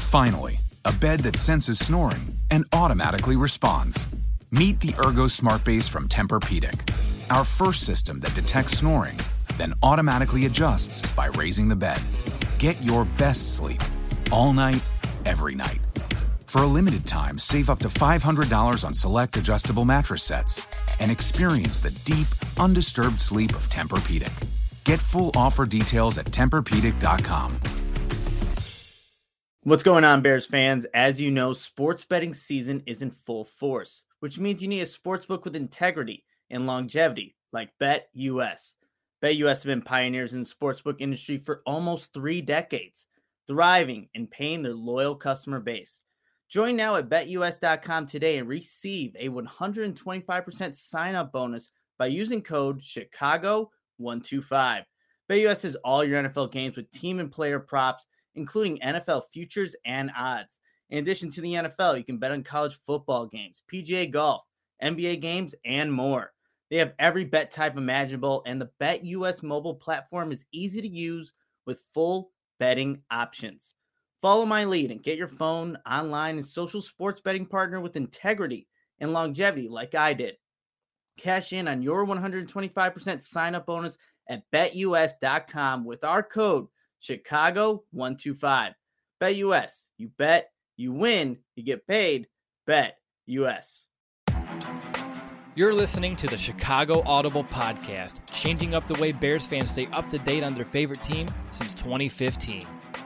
Finally, a bed that senses snoring and automatically responds. Meet the Ergo Smart Base from Tempur-Pedic, our first system that detects snoring, then automatically adjusts by raising the bed. Get your best sleep all night, every night. For a limited time, save up to $500 on select adjustable mattress sets and experience the deep, undisturbed sleep of Tempur-Pedic. Get full offer details at TempurPedic.com. What's going on, Bears fans? As you know, sports betting season is in full force, which means you need a sportsbook with integrity and longevity like BetUS. BetUS have been pioneers in the sportsbook industry for almost 3 decades, thriving and paying their loyal customer base. Join now at BetUS.com today and receive a 125% sign-up bonus by using code Chicago125. BetUS has all your NFL games with team and player props, including NFL futures and odds. In addition to the NFL, you can bet on college football games, PGA golf, NBA games, and more. They have every bet type imaginable, and the BetUS mobile platform is easy to use with full betting options. Follow my lead and get your phone, online, and social sports betting partner with integrity and longevity like I did. Cash in on your 125% sign-up bonus at BetUS.com with our code Chicago125. BetUS. You bet, you win, you get paid. BetUS. You're listening to the Chicago Audible Podcast, changing up the way Bears fans stay up to date on their favorite team since 2015.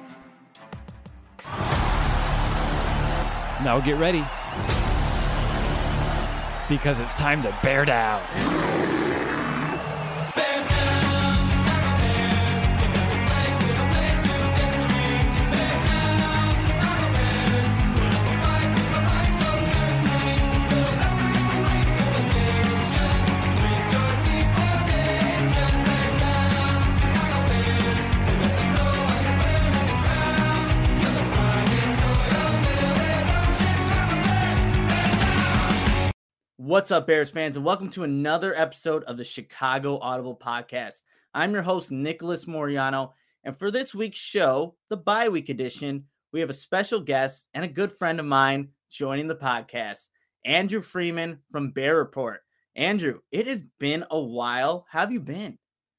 Now get ready, because it's time to bear down. What's up, Bears fans, and welcome to another episode of the Chicago Audible Podcast. I'm your host, Nicholas Moriano, and for this week's show, the bye week edition, we have a special guest and a good friend of mine joining the podcast, Andrew Freeman from Bear Report. Andrew, it has been a while. How have you been?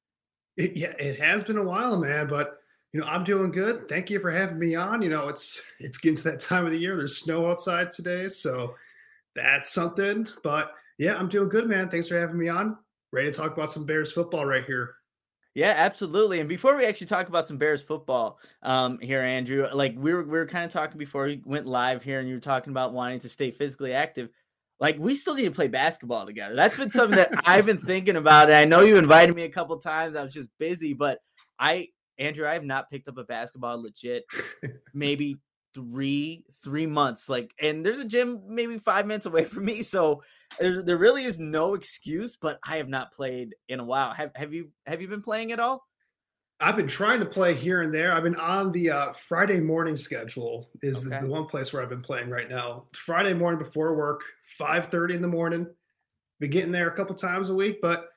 It has been a while, man, but I'm doing good. Thank you for having me on. It's getting to that time of the year. There's snow outside today, so that's something. But yeah, I'm doing good, man. Thanks for having me on. Ready to talk about some Bears football right here. Yeah, absolutely. And before we actually talk about some Bears football here, Andrew, like we were kind of talking before we went live here, and you were talking about wanting to stay physically active. Like, we still need to play basketball together. That's been something that I've been thinking about. And I know you invited me a couple times. I was just busy, but Andrew, I have not picked up a basketball legit maybe three months. And there's a gym maybe 5 minutes away from me, so there really is no excuse. But I have not played in a while. Have you been playing at all? I've been trying to play here and there. I've been on the Friday morning schedule is the one place where I've been playing right now. Friday morning before work, 5:30 in the morning. Been getting there a couple times a week, but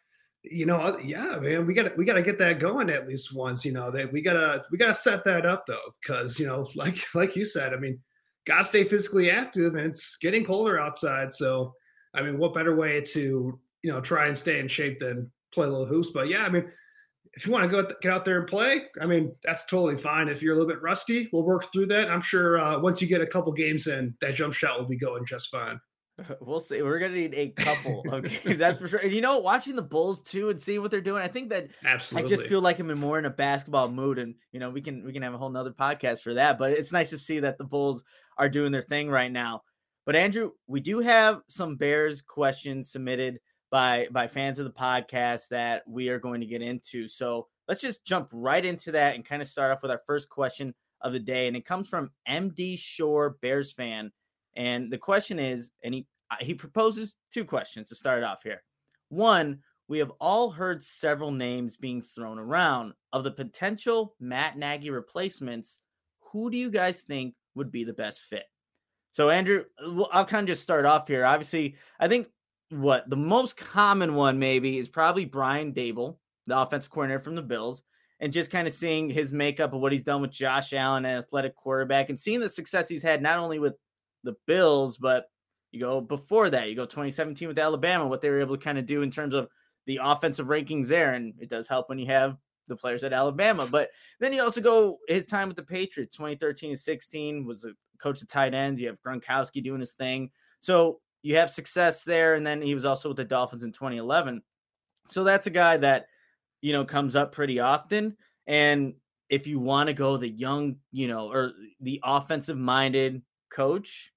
yeah, man, we gotta get that going at least once. That we gotta set that up though, because like you said, I mean, gotta stay physically active, and it's getting colder outside. So, I mean, what better way to try and stay in shape than play a little hoops? But yeah, I mean, if you want to get out there and play, I mean, that's totally fine. If you're a little bit rusty, we'll work through that. I'm sure once you get a couple games in, that jump shot will be going just fine. We'll see. We're going to need a couple of games, that's for sure. And watching the Bulls too and seeing what they're doing, I think that absolutely. I just feel like I'm more in a basketball mood, and we can have a whole nother podcast for that. But it's nice to see that the Bulls are doing their thing right now. But Andrew, we do have some Bears questions submitted by fans of the podcast that we are going to get into. So let's just jump right into that and kind of start off with our first question of the day. And it comes from MD Shore, Bears fan. And the question is, and he proposes 2 questions to start off here. One, we have all heard several names being thrown around of the potential Matt Nagy replacements. Who do you guys think would be the best fit? So Andrew, I'll kind of just start off here. Obviously, I think the most common one maybe is probably Brian Daboll, the offensive coordinator from the Bills. and just kind of seeing his makeup of what he's done with Josh Allen, an athletic quarterback, and seeing the success he's had not only with the Bills, but you go before that, you go 2017 with Alabama, what they were able to kind of do in terms of the offensive rankings there. And it does help when you have the players at Alabama. But then you also go his time with the Patriots, 2013 and 16, was a coach of tight ends. You have Gronkowski doing his thing. So you have success there. And then he was also with the Dolphins in 2011. So that's a guy that, you know, comes up pretty often. And if you want to go the young, you know, or the offensive minded coach,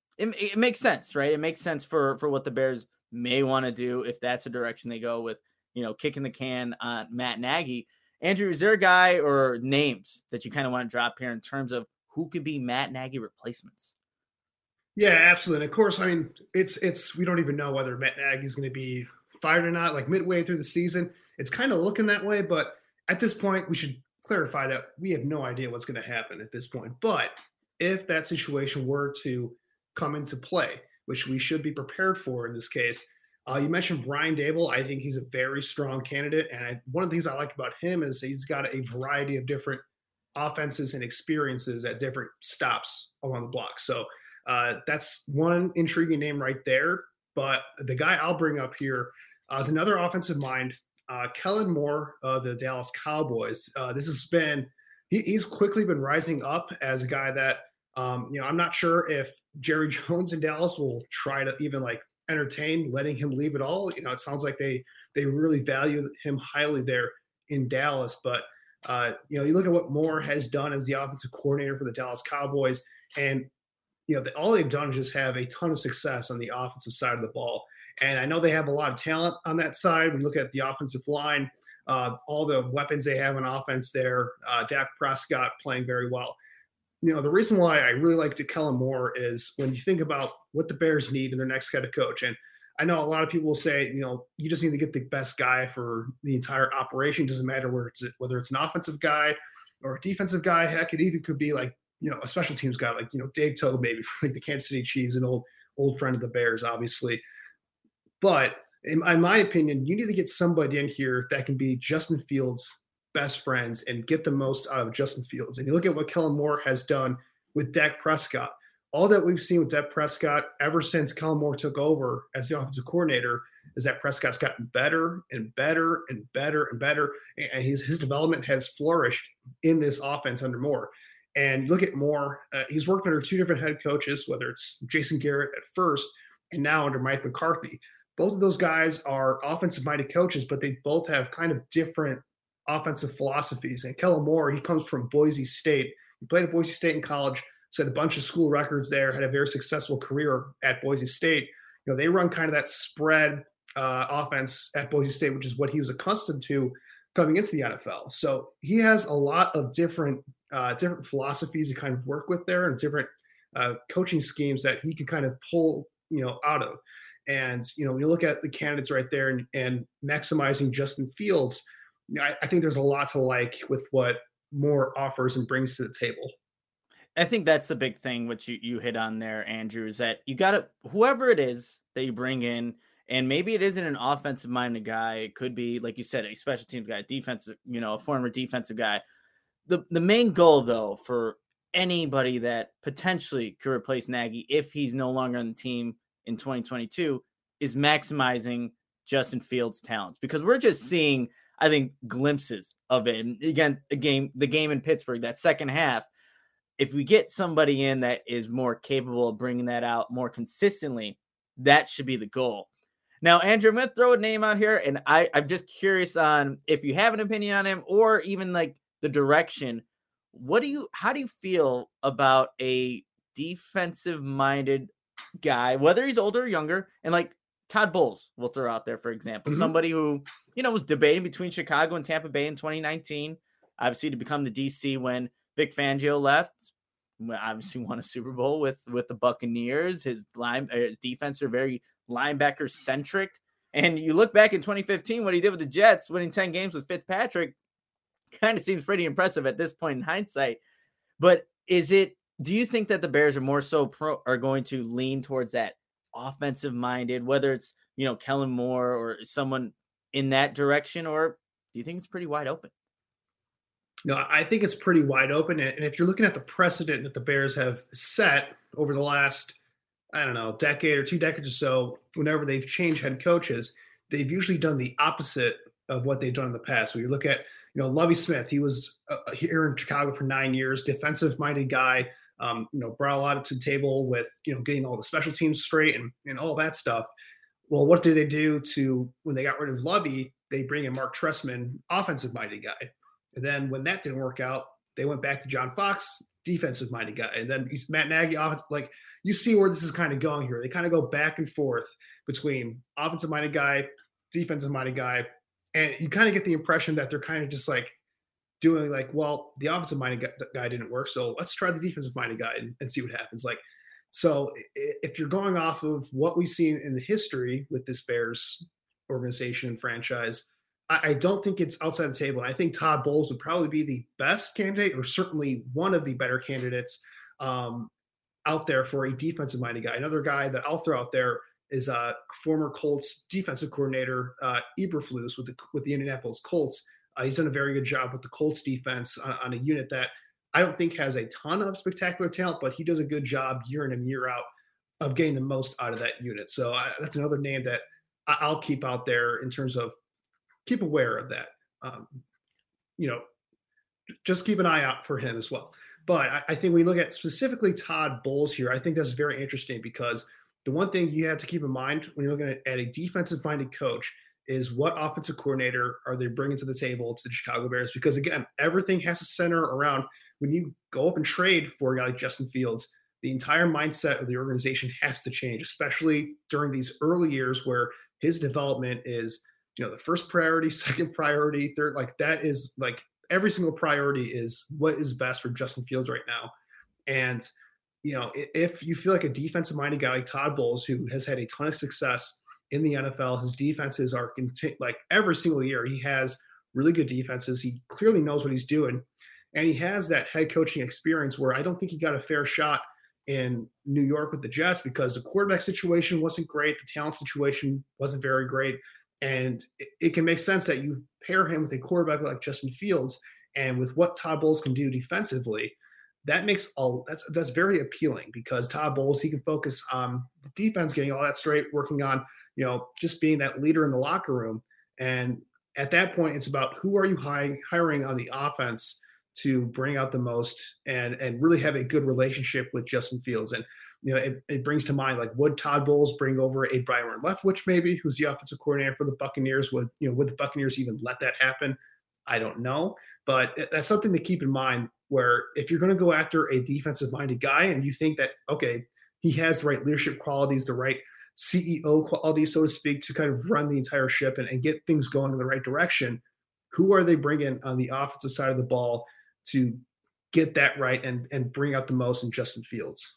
it makes sense, right? It makes sense for what the Bears may want to do if that's the direction they go with, you know, kicking the can on Matt Nagy. Andrew, is there a guy or names that you kind of want to drop here in terms of who could be Matt Nagy replacements? Yeah, absolutely. And of course, I mean, it's we don't even know whether Matt Nagy is going to be fired or not. Like midway through the season, it's kind of looking that way. But at this point, we should clarify that we have no idea what's going to happen at this point. But if that situation were to come into play, which we should be prepared for in this case. You mentioned Brian Daboll. I think he's a very strong candidate. And one of the things I like about him is he's got a variety of different offenses and experiences at different stops along the block. So that's one intriguing name right there. But the guy I'll bring up here is another offensive mind, Kellen Moore of the Dallas Cowboys. This has been he's quickly been rising up as a guy that, you know, I'm not sure if Jerry Jones in Dallas will try to even like entertain letting him leave at all. You know, it sounds like they really value him highly there in Dallas. But, you know, you look at what Moore has done as the offensive coordinator for the Dallas Cowboys, and, you know, all they've done is just have a ton of success on the offensive side of the ball. And I know they have a lot of talent on that side. When you look at the offensive line, all the weapons they have on offense there, Dak Prescott playing very well. You know, the reason why I really like Kellen Moore is when you think about what the Bears need in their next head coach. And I know a lot of people will say, you know, you just need to get the best guy for the entire operation. It doesn't matter whether it's an offensive guy or a defensive guy. Heck, it even could be like, you know, a special teams guy, like, you know, Dave Togue, maybe for like the Kansas City Chiefs, an old friend of the Bears, obviously. But in my opinion, you need to get somebody in here that can be Justin Fields' best friends and get the most out of Justin Fields. And you look at what Kellen Moore has done with Dak Prescott. All that we've seen with Dak Prescott ever since Kellen Moore took over as the offensive coordinator is that Prescott's gotten better and better and better and better. And his development has flourished in this offense under Moore. And look at Moore. He's worked under two different head coaches, whether it's Jason Garrett at first and now under Mike McCarthy. Both of those guys are offensive-minded coaches, but they both have kind of different offensive philosophies. And Kellen Moore, he comes from Boise State. He played at Boise State in college, set a bunch of school records there, had a very successful career at Boise State. You know, they run kind of that spread offense at Boise State, which is what he was accustomed to coming into the NFL. So he has a lot of different philosophies to kind of work with there and different coaching schemes that he can kind of pull, you know, out of. And, you know, when you look at the candidates right there and maximizing Justin Fields, I think there's a lot to like with what Moore offers and brings to the table. I think that's the big thing, which you hit on there, Andrew, is that you got to, whoever it is that you bring in, and maybe it isn't an offensive minded guy. It could be, like you said, a special teams guy, defensive, you know, a former defensive guy. The main goal, though, for anybody that potentially could replace Nagy if he's no longer on the team in 2022 is maximizing Justin Fields' talents, because we're just seeing, I think, glimpses of it. And again, the game in Pittsburgh, that second half, if we get somebody in that is more capable of bringing that out more consistently, that should be the goal. Now, Andrew, I'm going to throw a name out here, and I'm just curious on if you have an opinion on him or even like the direction. How do you feel about a defensive-minded guy, whether he's older or younger, and like Todd Bowles, we'll throw out there, for example, somebody who, you know, was debating between Chicago and Tampa Bay in 2019, obviously to become the DC when Vic Fangio left, obviously won a Super Bowl with the Buccaneers. His defense are very linebacker centric. And you look back in 2015, what he did with the Jets, winning 10 games with Fitzpatrick, kind of seems pretty impressive at this point in hindsight. But do you think that the Bears are more so are going to lean towards that offensive minded, whether it's, you know, Kellen Moore or someone in that direction, or do you think it's pretty wide open? No, I think it's pretty wide open. And if you're looking at the precedent that the Bears have set over the last, I don't know, decade or 2 decades or so, whenever they've changed head coaches, they've usually done the opposite of what they've done in the past. So you look at, Lovie Smith, he was here in Chicago for 9 years, defensive-minded guy, brought a lot to the table with, getting all the special teams straight and all that stuff. Well, what did they do when they got rid of Lovie? They bring in Mark Trestman, offensive-minded guy. And then when that didn't work out, they went back to John Fox, defensive-minded guy. And then Matt Nagy, you see where this is kind of going here. They kind of go back and forth between offensive-minded guy, defensive-minded guy. And you kind of get the impression that they're kind of just like doing like, well, the offensive-minded guy didn't work, so let's try the defensive-minded guy and see what happens. Like, so if you're going off of what we've seen in the history with this Bears organization and franchise, I don't think it's outside the table. And I think Todd Bowles would probably be the best candidate, or certainly one of the better candidates out there for a defensive-minded guy. Another guy that I'll throw out there is former Colts defensive coordinator Eberflus with the Indianapolis Colts. He's done a very good job with the Colts defense on a unit that I don't think has a ton of spectacular talent, but he does a good job year in and year out of getting the most out of that unit. So that's another name that I'll keep out there in terms of keep aware of that. Just keep an eye out for him as well. But I think when we look at specifically Todd Bowles here, I think that's very interesting because the one thing you have to keep in mind when you're looking at a defensive-minded coach is what offensive coordinator are they bringing to the table to the Chicago Bears? Because, again, everything has to center around when you go up and trade for a guy like Justin Fields, the entire mindset of the organization has to change, especially during these early years where his development is, the first priority, second priority, third. Like that is like every single priority is what is best for Justin Fields right now. And, if you feel like a defensive-minded guy like Todd Bowles, who has had a ton of success in the NFL, his defenses are like every single year. He has really good defenses. He clearly knows what he's doing. And he has that head coaching experience where I don't think he got a fair shot in New York with the Jets because the quarterback situation wasn't great. The talent situation wasn't very great. And it can make sense that you pair him with a quarterback like Justin Fields and with what Todd Bowles can do defensively, that makes that's very appealing because Todd Bowles, he can focus on the defense, getting all that straight, working on, just being that leader in the locker room. And at that point, it's about who are you hiring on the offense to bring out the most and really have a good relationship with Justin Fields. And, it brings to mind, like, would Todd Bowles bring over a Byron Leftwich maybe, who's the offensive coordinator for the Buccaneers? Would the Buccaneers even let that happen? I don't know. But that's something to keep in mind where if you're going to go after a defensive-minded guy and you think that, okay, he has the right leadership qualities, the right CEO qualities, so to speak, to kind of run the entire ship and get things going in the right direction, who are they bringing on the offensive side of the ball to get that right and bring out the most in Justin Fields?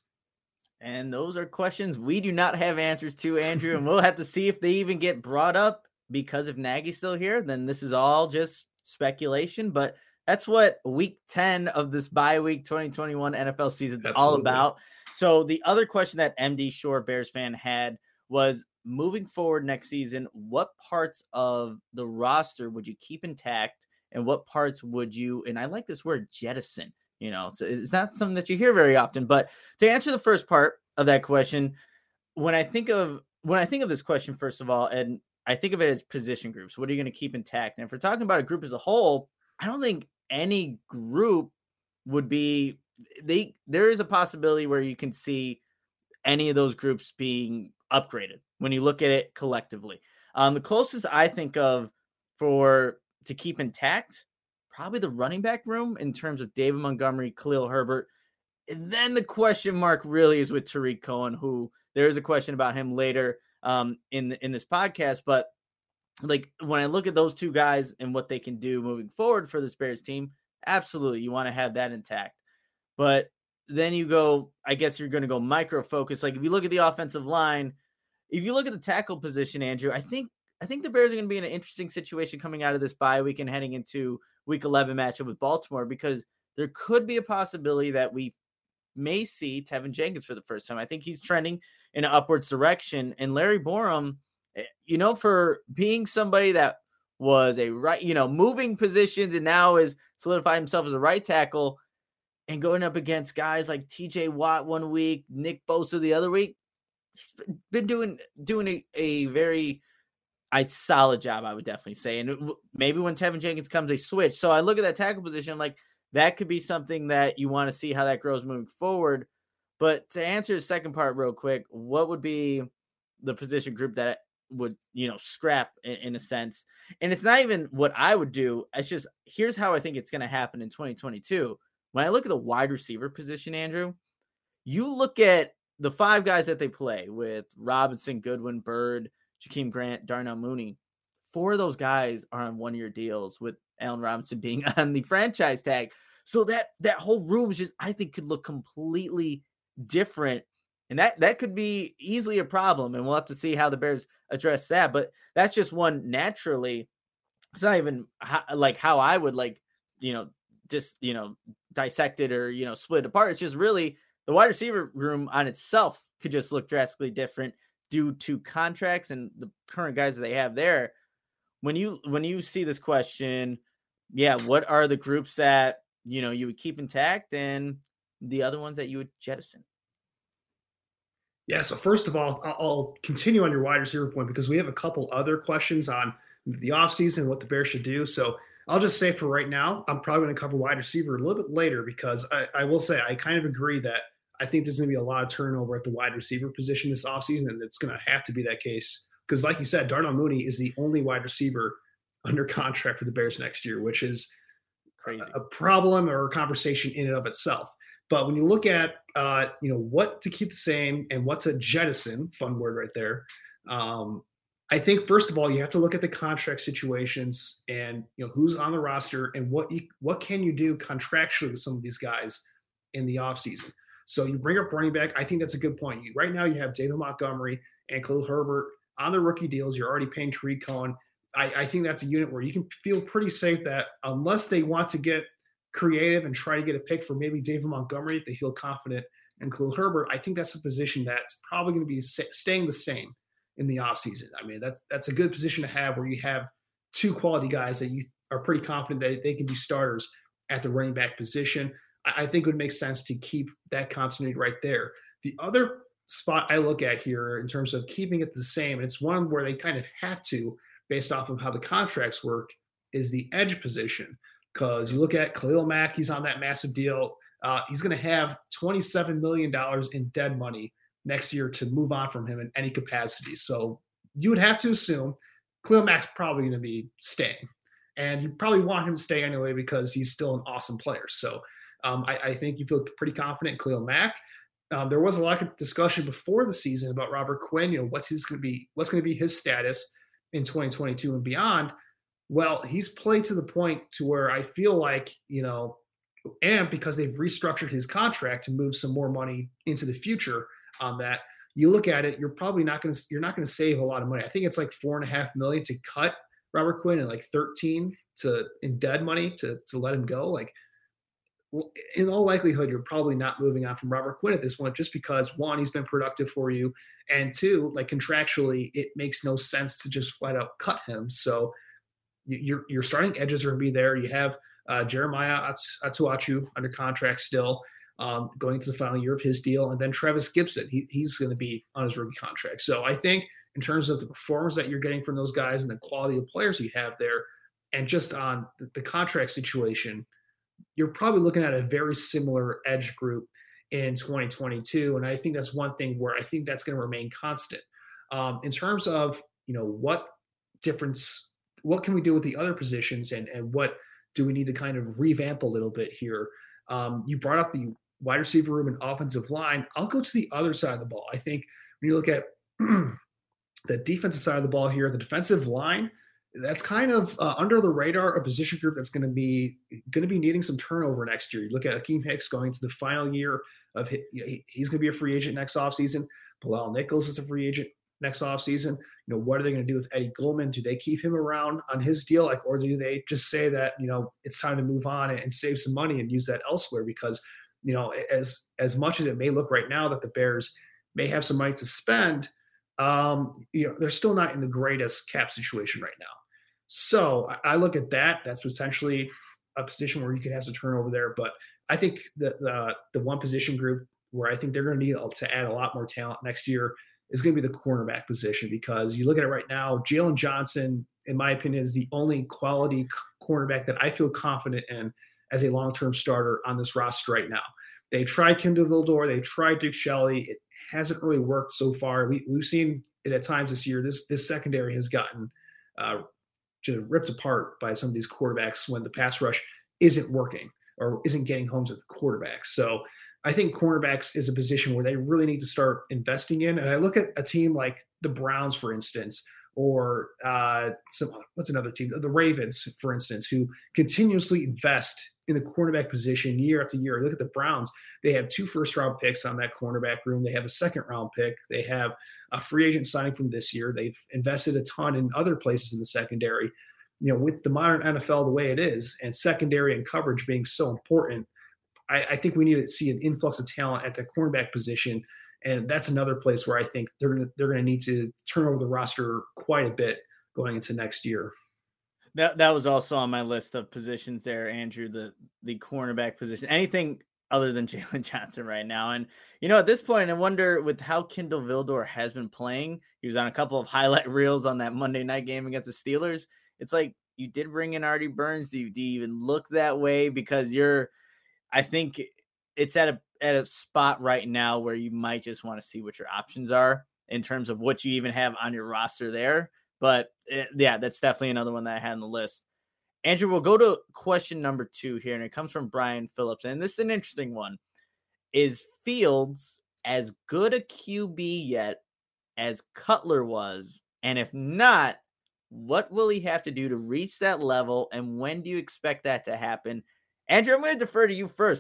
And those are questions we do not have answers to, Andrew, and we'll have to see if they even get brought up because if Nagy's still here, then this is all just speculation. But that's what week 10 of this bye week 2021 NFL season is all about. So the other question that MD Shore Bears fan had was moving forward next season, what parts of the roster would you keep intact and what parts would you, and I like this word, jettison? It's not something that you hear very often, but to answer the first part of that question, when I think of this question, first of all, and I think of it as position groups, what are you going to keep intact? And if we're talking about a group as a whole, I don't think any group would be, there is a possibility where you can see any of those groups being upgraded when you look at it collectively. The closest I think of to keep intact, probably the running back room in terms of David Montgomery, Khalil Herbert. And then the question mark really is with Tariq Cohen, who there is a question about him later in this podcast. But like when I look at those two guys and what they can do moving forward for this Bears team, absolutely, you want to have that intact. But then you go, I guess you're going to go micro focus. Like if you look at the offensive line, if you look at the tackle position, Andrew, I think the Bears are going to be in an interesting situation coming out of this bye week and heading into Week 11 matchup with Baltimore because there could be a possibility that we may see Tevin Jenkins for the first time. I think he's trending in an upwards direction. And Larry Borom, for being somebody that was a right, moving positions and now is solidifying himself as a right tackle and going up against guys like TJ Watt one week, Nick Bosa the other week. He's been doing a very solid job, I would definitely say. And maybe when Tevin Jenkins comes, they switch. So I look at that tackle position, like that could be something that you want to see how that grows moving forward. But to answer the second part real quick, what would be the position group that would, scrap in a sense? And it's not even what I would do. It's just, here's how I think it's going to happen in 2022. When I look at the wide receiver position, Andrew, you look at the 5 guys that they play with Robinson, Goodwin, Bird, Jakeem Grant, Darnell Mooney. 4 of those guys are on 1-year deals, with Allen Robinson being on the franchise tag. So that whole room is just, I think, could look completely different. And that could be easily a problem. And we'll have to see how the Bears address that. But that's just one naturally. It's not even how I would dissect it or, split it apart. It's just really the wide receiver room on itself could just look drastically different due to contracts and the current guys that they have there. When you see this question, what are the groups that, you would keep intact and the other ones that you would jettison? Yeah, so first of all, I'll continue on your wide receiver point because we have a couple other questions on the offseason, what the Bears should do. So I'll just say for right now, I'm probably going to cover wide receiver a little bit later because I will say I kind of agree that I think there's going to be a lot of turnover at the wide receiver position this offseason, and it's going to have to be that case. Because like you said, Darnell Mooney is the only wide receiver under contract for the Bears next year, which is crazy, a problem or a conversation in and of itself. But when you look at, what to keep the same and what to jettison, fun word right there, I think, first of all, you have to look at the contract situations and, who's on the roster and what can you do contractually with some of these guys in the offseason. So you bring up running back. I think that's a good point. Right now you have David Montgomery and Khalil Herbert on the rookie deals. You're already paying Tariq Cohen. I think that's a unit where you can feel pretty safe that unless they want to get creative and try to get a pick for maybe David Montgomery, if they feel confident in Khalil Herbert, I think that's a position that's probably going to be staying the same in the offseason. I mean, that's a good position to have where you have 2 quality guys that you are pretty confident that they can be starters at the running back position. I think it would make sense to keep that continuity right there. The other spot I look at here in terms of keeping it the same, and it's one where they kind of have to based off of how the contracts work, is the edge position. Because you look at Khalil Mack, he's on that massive deal. He's going to have $27 million in dead money next year to move on from him in any capacity. So you would have to assume Khalil Mack's probably going to be staying. And you probably want him to stay anyway because he's still an awesome player. So I think you feel pretty confident in Khalil Mack. There was a lot of discussion before the season about Robert Quinn. What's going to be his status in 2022 and beyond. Well, he's played to the point to where I feel like, and because they've restructured his contract to move some more money into the future on that, you look at it, you're not going to save a lot of money. I think it's like $4.5 million to cut Robert Quinn and like 13 in dead money to let him go. Like, in all likelihood, you're probably not moving on from Robert Quinn at this point, just because 1, he's been productive for you, and 2, like contractually, it makes no sense to just flat out cut him. So your starting edges are going to be there. You have Jeremiah Atuachu under contract still, going to the final year of his deal, and then Travis Gibson. He's going to be on his rookie contract. So I think in terms of the performance that you're getting from those guys and the quality of players you have there, and just on the contract situation, you're probably looking at a very similar edge group in 2022. And I think that's one thing where I think that's going to remain constant. In terms of, what can we do with the other positions and what do we need to kind of revamp a little bit here? You brought up the wide receiver room and offensive line. I'll go to the other side of the ball. I think when you look at the defensive side of the ball here, the defensive line, that's kind of under the radar, a position group that's going to be needing some turnover next year. You look at Akeem Hicks going to the final year of he's going to be a free agent next offseason. Bilal Nichols is a free agent next offseason. What are they going to do with Eddie Goldman? Do they keep him around on his deal, or do they just say that it's time to move on and save some money and use that elsewhere? Because as much as it may look right now that the Bears may have some money to spend, they're still not in the greatest cap situation right now. So I look at that. That's potentially a position where you could have some turnover there. But I think the one position group where I think they're going to need to add a lot more talent next year is going to be the cornerback position, because you look at it right now, Jalen Johnson, in my opinion, is the only quality cornerback that I feel confident in as a long-term starter on this roster right now. They tried Kindle Vildor. They tried Duke Shelley. It hasn't really worked so far. We've seen it at times this year. This secondary has gotten just ripped apart by some of these quarterbacks when the pass rush isn't working or isn't getting homes at the quarterbacks. So I think cornerbacks is a position where they really need to start investing in. And I look at a team like the Browns, for instance, or what's another team? The Ravens, for instance, who continuously invest in the cornerback position year after year. Look at the Browns. They have 2 first-round picks on that cornerback room. They have a second-round pick. They have a free agent signing from this year. They've invested a ton in other places in the secondary. You know, with the modern NFL the way it is, and secondary and coverage being so important, I think we need to see an influx of talent at the cornerback position. And that's another place where I think they're going to need to turn over the roster quite a bit going into next year. That was also on my list of positions there, Andrew, the cornerback position. Anything other than Jalen Johnson right now. And, you know, at this point, I wonder with how Kindle Vildor has been playing, he was on a couple of highlight reels on that Monday night game against the Steelers. It's like, you did bring in Artie Burns. Do you even look that way? Because I think it's at a spot right now where you might just want to see what your options are in terms of what you even have on your roster there. But yeah, that's definitely another one that I had on the list. Andrew, we'll go to question number 2 here, and it comes from Brian Phillips. And this is an interesting one. Is Fields as good a QB yet as Cutler was? And if not, what will he have to do to reach that level? And when do you expect that to happen? Andrew, I'm going to defer to you first.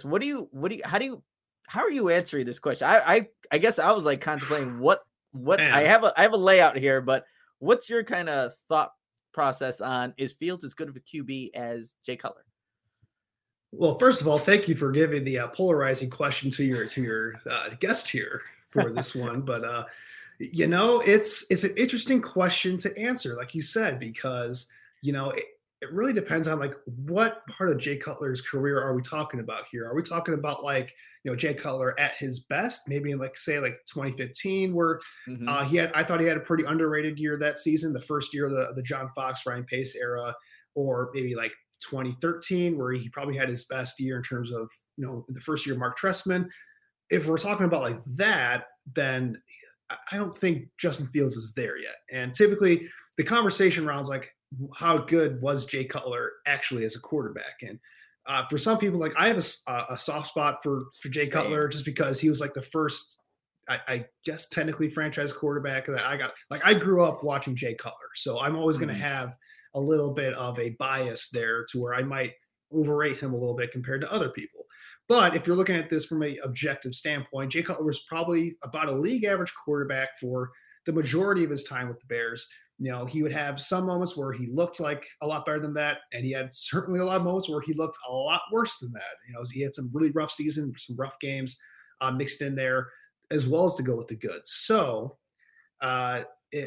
How are you answering this question? I guess I was like contemplating what I have a layout here, but what's your kind of thought process on, is Fields as good of a QB as Jay Cutler? Well, first of all, thank you for giving the polarizing question to your guest here for this one. But you know, it's an interesting question to answer, like you said, because you know it really depends on like what part of Jay Cutler's career are we talking about here? Are we talking about like, you know, Jay Cutler at his best, maybe in like say like 2015, where I thought he had a pretty underrated year that season, the first year of the John Fox, Ryan Pace era, or maybe like 2013, where he probably had his best year in terms of, you know, the first year of Mark Trestman. If we're talking about like that, then I don't think Justin Fields is there yet. And typically the conversation rounds like, how good was Jay Cutler actually as a quarterback? And for some people, like I have a soft spot for Jay Cutler just because he was like the first, I guess technically franchise quarterback that I got. Like I grew up watching Jay Cutler, so I'm always going to have a little bit of a bias there to where I might overrate him a little bit compared to other people. But if you're looking at this from an objective standpoint, Jay Cutler was probably about a league average quarterback for the majority of his time with the Bears. You know, he would have some moments where he looked like a lot better than that, and he had certainly a lot of moments where he looked a lot worse than that. You know, he had some really rough seasons, some rough games mixed in there, as well as to go with the goods. So, right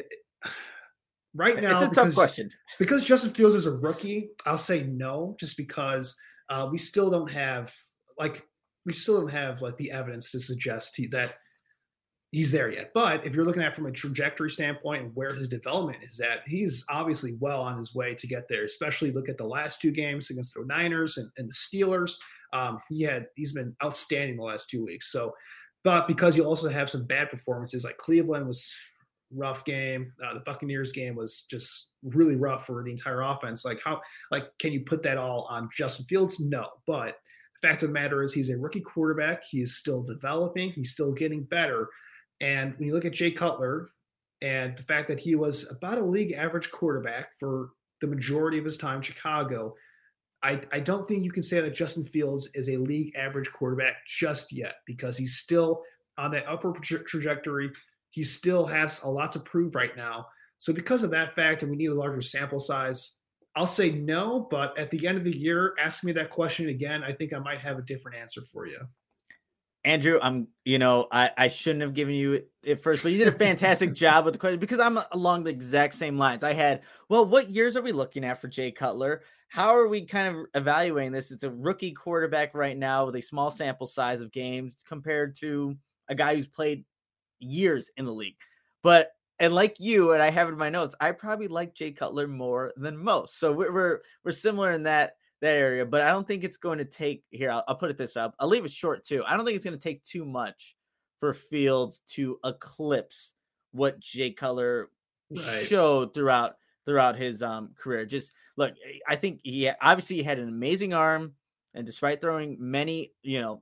now, it's a tough question. Because Justin Fields is a rookie, I'll say no, just because we still don't have like the evidence to suggest that he's there yet. But if you're looking at it from a trajectory standpoint and where his development is at, he's obviously well on his way to get there, especially look at the last 2 games against the Niners and the Steelers. He's been outstanding the last 2 weeks. So, but because you also have some bad performances, like Cleveland was rough game. The Buccaneers game was just really rough for the entire offense. Can you put that all on Justin Fields? No, but the fact of the matter is he's a rookie quarterback. He's still developing. He's still getting better. And when you look at Jay Cutler and the fact that he was about a league average quarterback for the majority of his time in Chicago, I don't think you can say that Justin Fields is a league average quarterback just yet, because he's still on that upward trajectory. He still has a lot to prove right now. So because of that fact, and we need a larger sample size, I'll say no, but at the end of the year, ask me that question again. I think I might have a different answer for you. Andrew, I shouldn't have given you it first, but you did a fantastic job with the question because I'm along the exact same lines. I had, what years are we looking at for Jay Cutler? How are we kind of evaluating this? It's a rookie quarterback right now with a small sample size of games compared to a guy who's played years in the league. And like you, and I have in my notes, I probably like Jay Cutler more than most. So we're similar in that area, but I don't think it's going to take here. I'll put it this way. I'll leave it short too. I don't think it's going to take too much for Fields to eclipse what Jay Cutler showed throughout his career. Just look, I think he had an amazing arm, and despite throwing many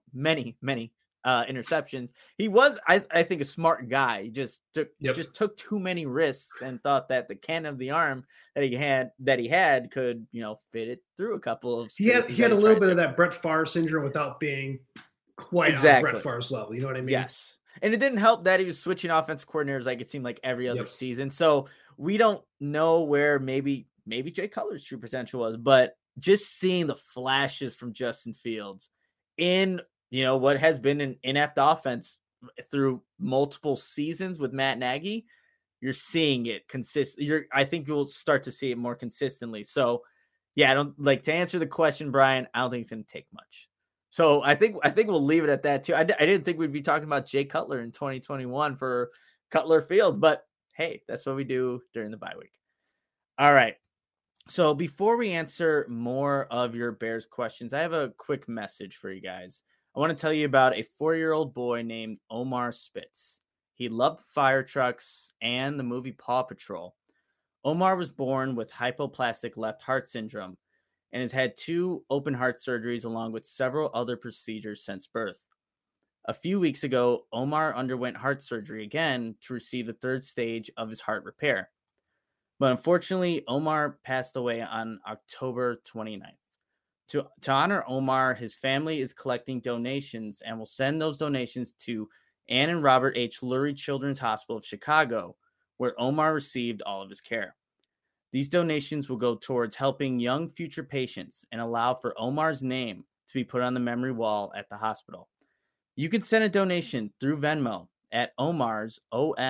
interceptions, he was, I think, a smart guy. He just took too many risks and thought that the cannon of the arm that he had could, fit it through a couple of spaces. He had a little bit of that Brett Favre syndrome without being quite on Brett Favre's level. You know what I mean? Yes. And it didn't help that he was switching offensive coordinators like it seemed like every other season. So we don't know where maybe Jay Cutler's true potential was, but just seeing the flashes from Justin Fields in what has been an inept offense through multiple seasons with Matt Nagy, you're seeing it consistent. I think you'll start to see it more consistently. So yeah, I don't like to answer the question, Brian. I don't think it's going to take much. So I think we'll leave it at that too. I didn't think we'd be talking about Jay Cutler in 2021 for Cutler Field, but hey, that's what we do during the bye week. All right. So before we answer more of your Bears questions, I have a quick message for you guys. I want to tell you about a 4-year-old boy named Omar Spitz. He loved fire trucks and the movie Paw Patrol. Omar was born with hypoplastic left heart syndrome and has had 2 open heart surgeries along with several other procedures since birth. A few weeks ago, Omar underwent heart surgery again to receive the 3rd stage of his heart repair. But unfortunately, Omar passed away on October 29th. To honor Omar, his family is collecting donations and will send those donations to Ann and Robert H. Lurie Children's Hospital of Chicago, where Omar received all of his care. These donations will go towards helping young future patients and allow for Omar's name to be put on the memory wall at the hospital. You can send a donation through Venmo at Omar's,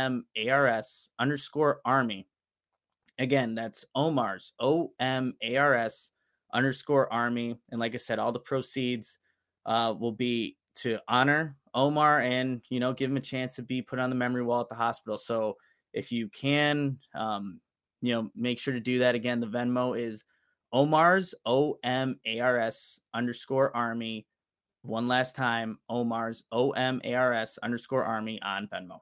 OMARS _Army. Again, that's Omar's, OMARS _Army. And like I said, all the proceeds will be to honor Omar and, give him a chance to be put on the memory wall at the hospital. So if you can, make sure to do that. Again, the Venmo is Omar's, OMARS _Army. One last time, Omar's, OMARS _Army on Venmo.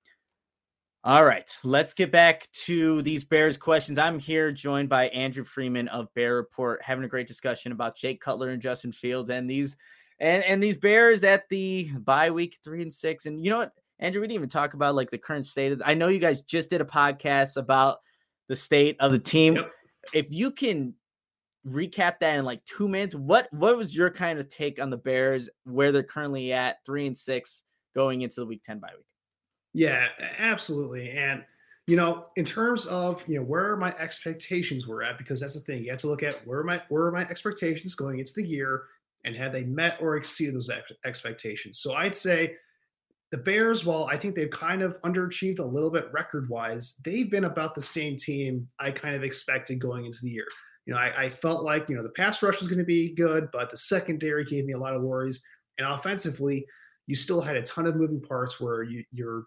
All right, let's get back to these Bears questions. I'm here joined by Andrew Freeman of Bear Report, having a great discussion about Jay Cutler and Justin Fields and these Bears at the bye week 3-6. And you know what, Andrew, we didn't even talk about like the current state of. I know you guys just did a podcast about the state of the team. Yep. If you can recap that in like 2 minutes, what was your kind of take on the Bears, where they're currently at 3-6 going into the week 10 bye week? Yeah, absolutely. And, in terms of, where my expectations were at, because that's the thing, you have to look at where are my expectations going into the year and have they met or exceeded those expectations. So I'd say the Bears, while I think they've kind of underachieved a little bit record-wise, they've been about the same team I kind of expected going into the year. I felt like, the pass rush was going to be good, but the secondary gave me a lot of worries. And offensively, you still had a ton of moving parts where you're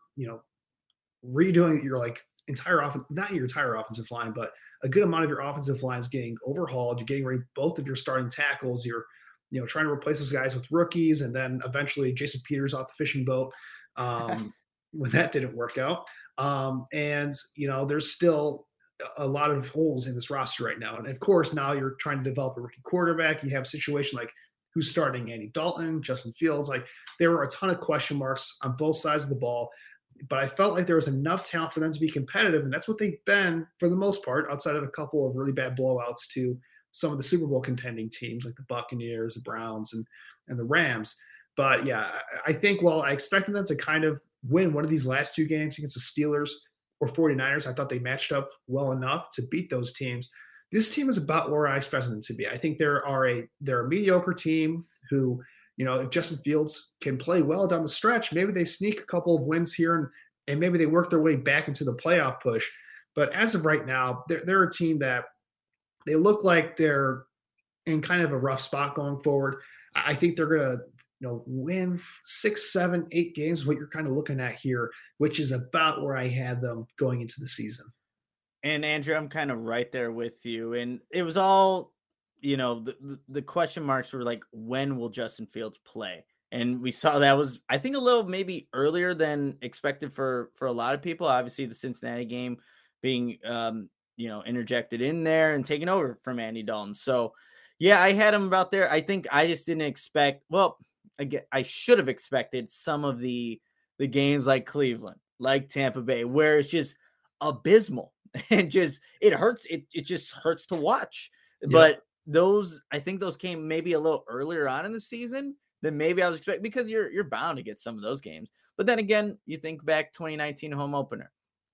redoing your entire offense, not your entire offensive line, but a good amount of your offensive line is getting overhauled. You're getting rid of both of your starting tackles. You're, trying to replace those guys with rookies, and then eventually Jason Peters off the fishing boat when that didn't work out. And there's still a lot of holes in this roster right now. And of course, now you're trying to develop a rookie quarterback. You have a situation like who's starting Andy Dalton, Justin Fields. Like there were a ton of question marks on both sides of the ball, but I felt like there was enough talent for them to be competitive. And that's what they've been for the most part, outside of a couple of really bad blowouts to some of the Super Bowl contending teams like the Buccaneers, the Browns, and the Rams. But yeah, I think while I expected them to kind of win one of these last 2 games against the Steelers or 49ers, I thought they matched up well enough to beat those teams. This team is about where I expected them to be. I think they're a mediocre team who, if Justin Fields can play well down the stretch, maybe they sneak a couple of wins here and maybe they work their way back into the playoff push. But as of right now, they're a team that they look like they're in kind of a rough spot going forward. I think they're going to win 6, 7, 8 games, what you're kind of looking at here, which is about where I had them going into the season. And Andrew, I'm kind of right there with you. And it was all, the question marks were like, when will Justin Fields play? And we saw that was, I think, a little maybe earlier than expected for a lot of people. Obviously, the Cincinnati game being, interjected in there and taken over from Andy Dalton. So, yeah, I had him about there. I think I just didn't expect, I should have expected some of the games like Cleveland, like Tampa Bay, where it's just abysmal and it hurts. It just hurts to watch. Yeah. But I think those came maybe a little earlier on in the season than maybe I was expecting, because you're bound to get some of those games. But then again, you think back 2019 home opener,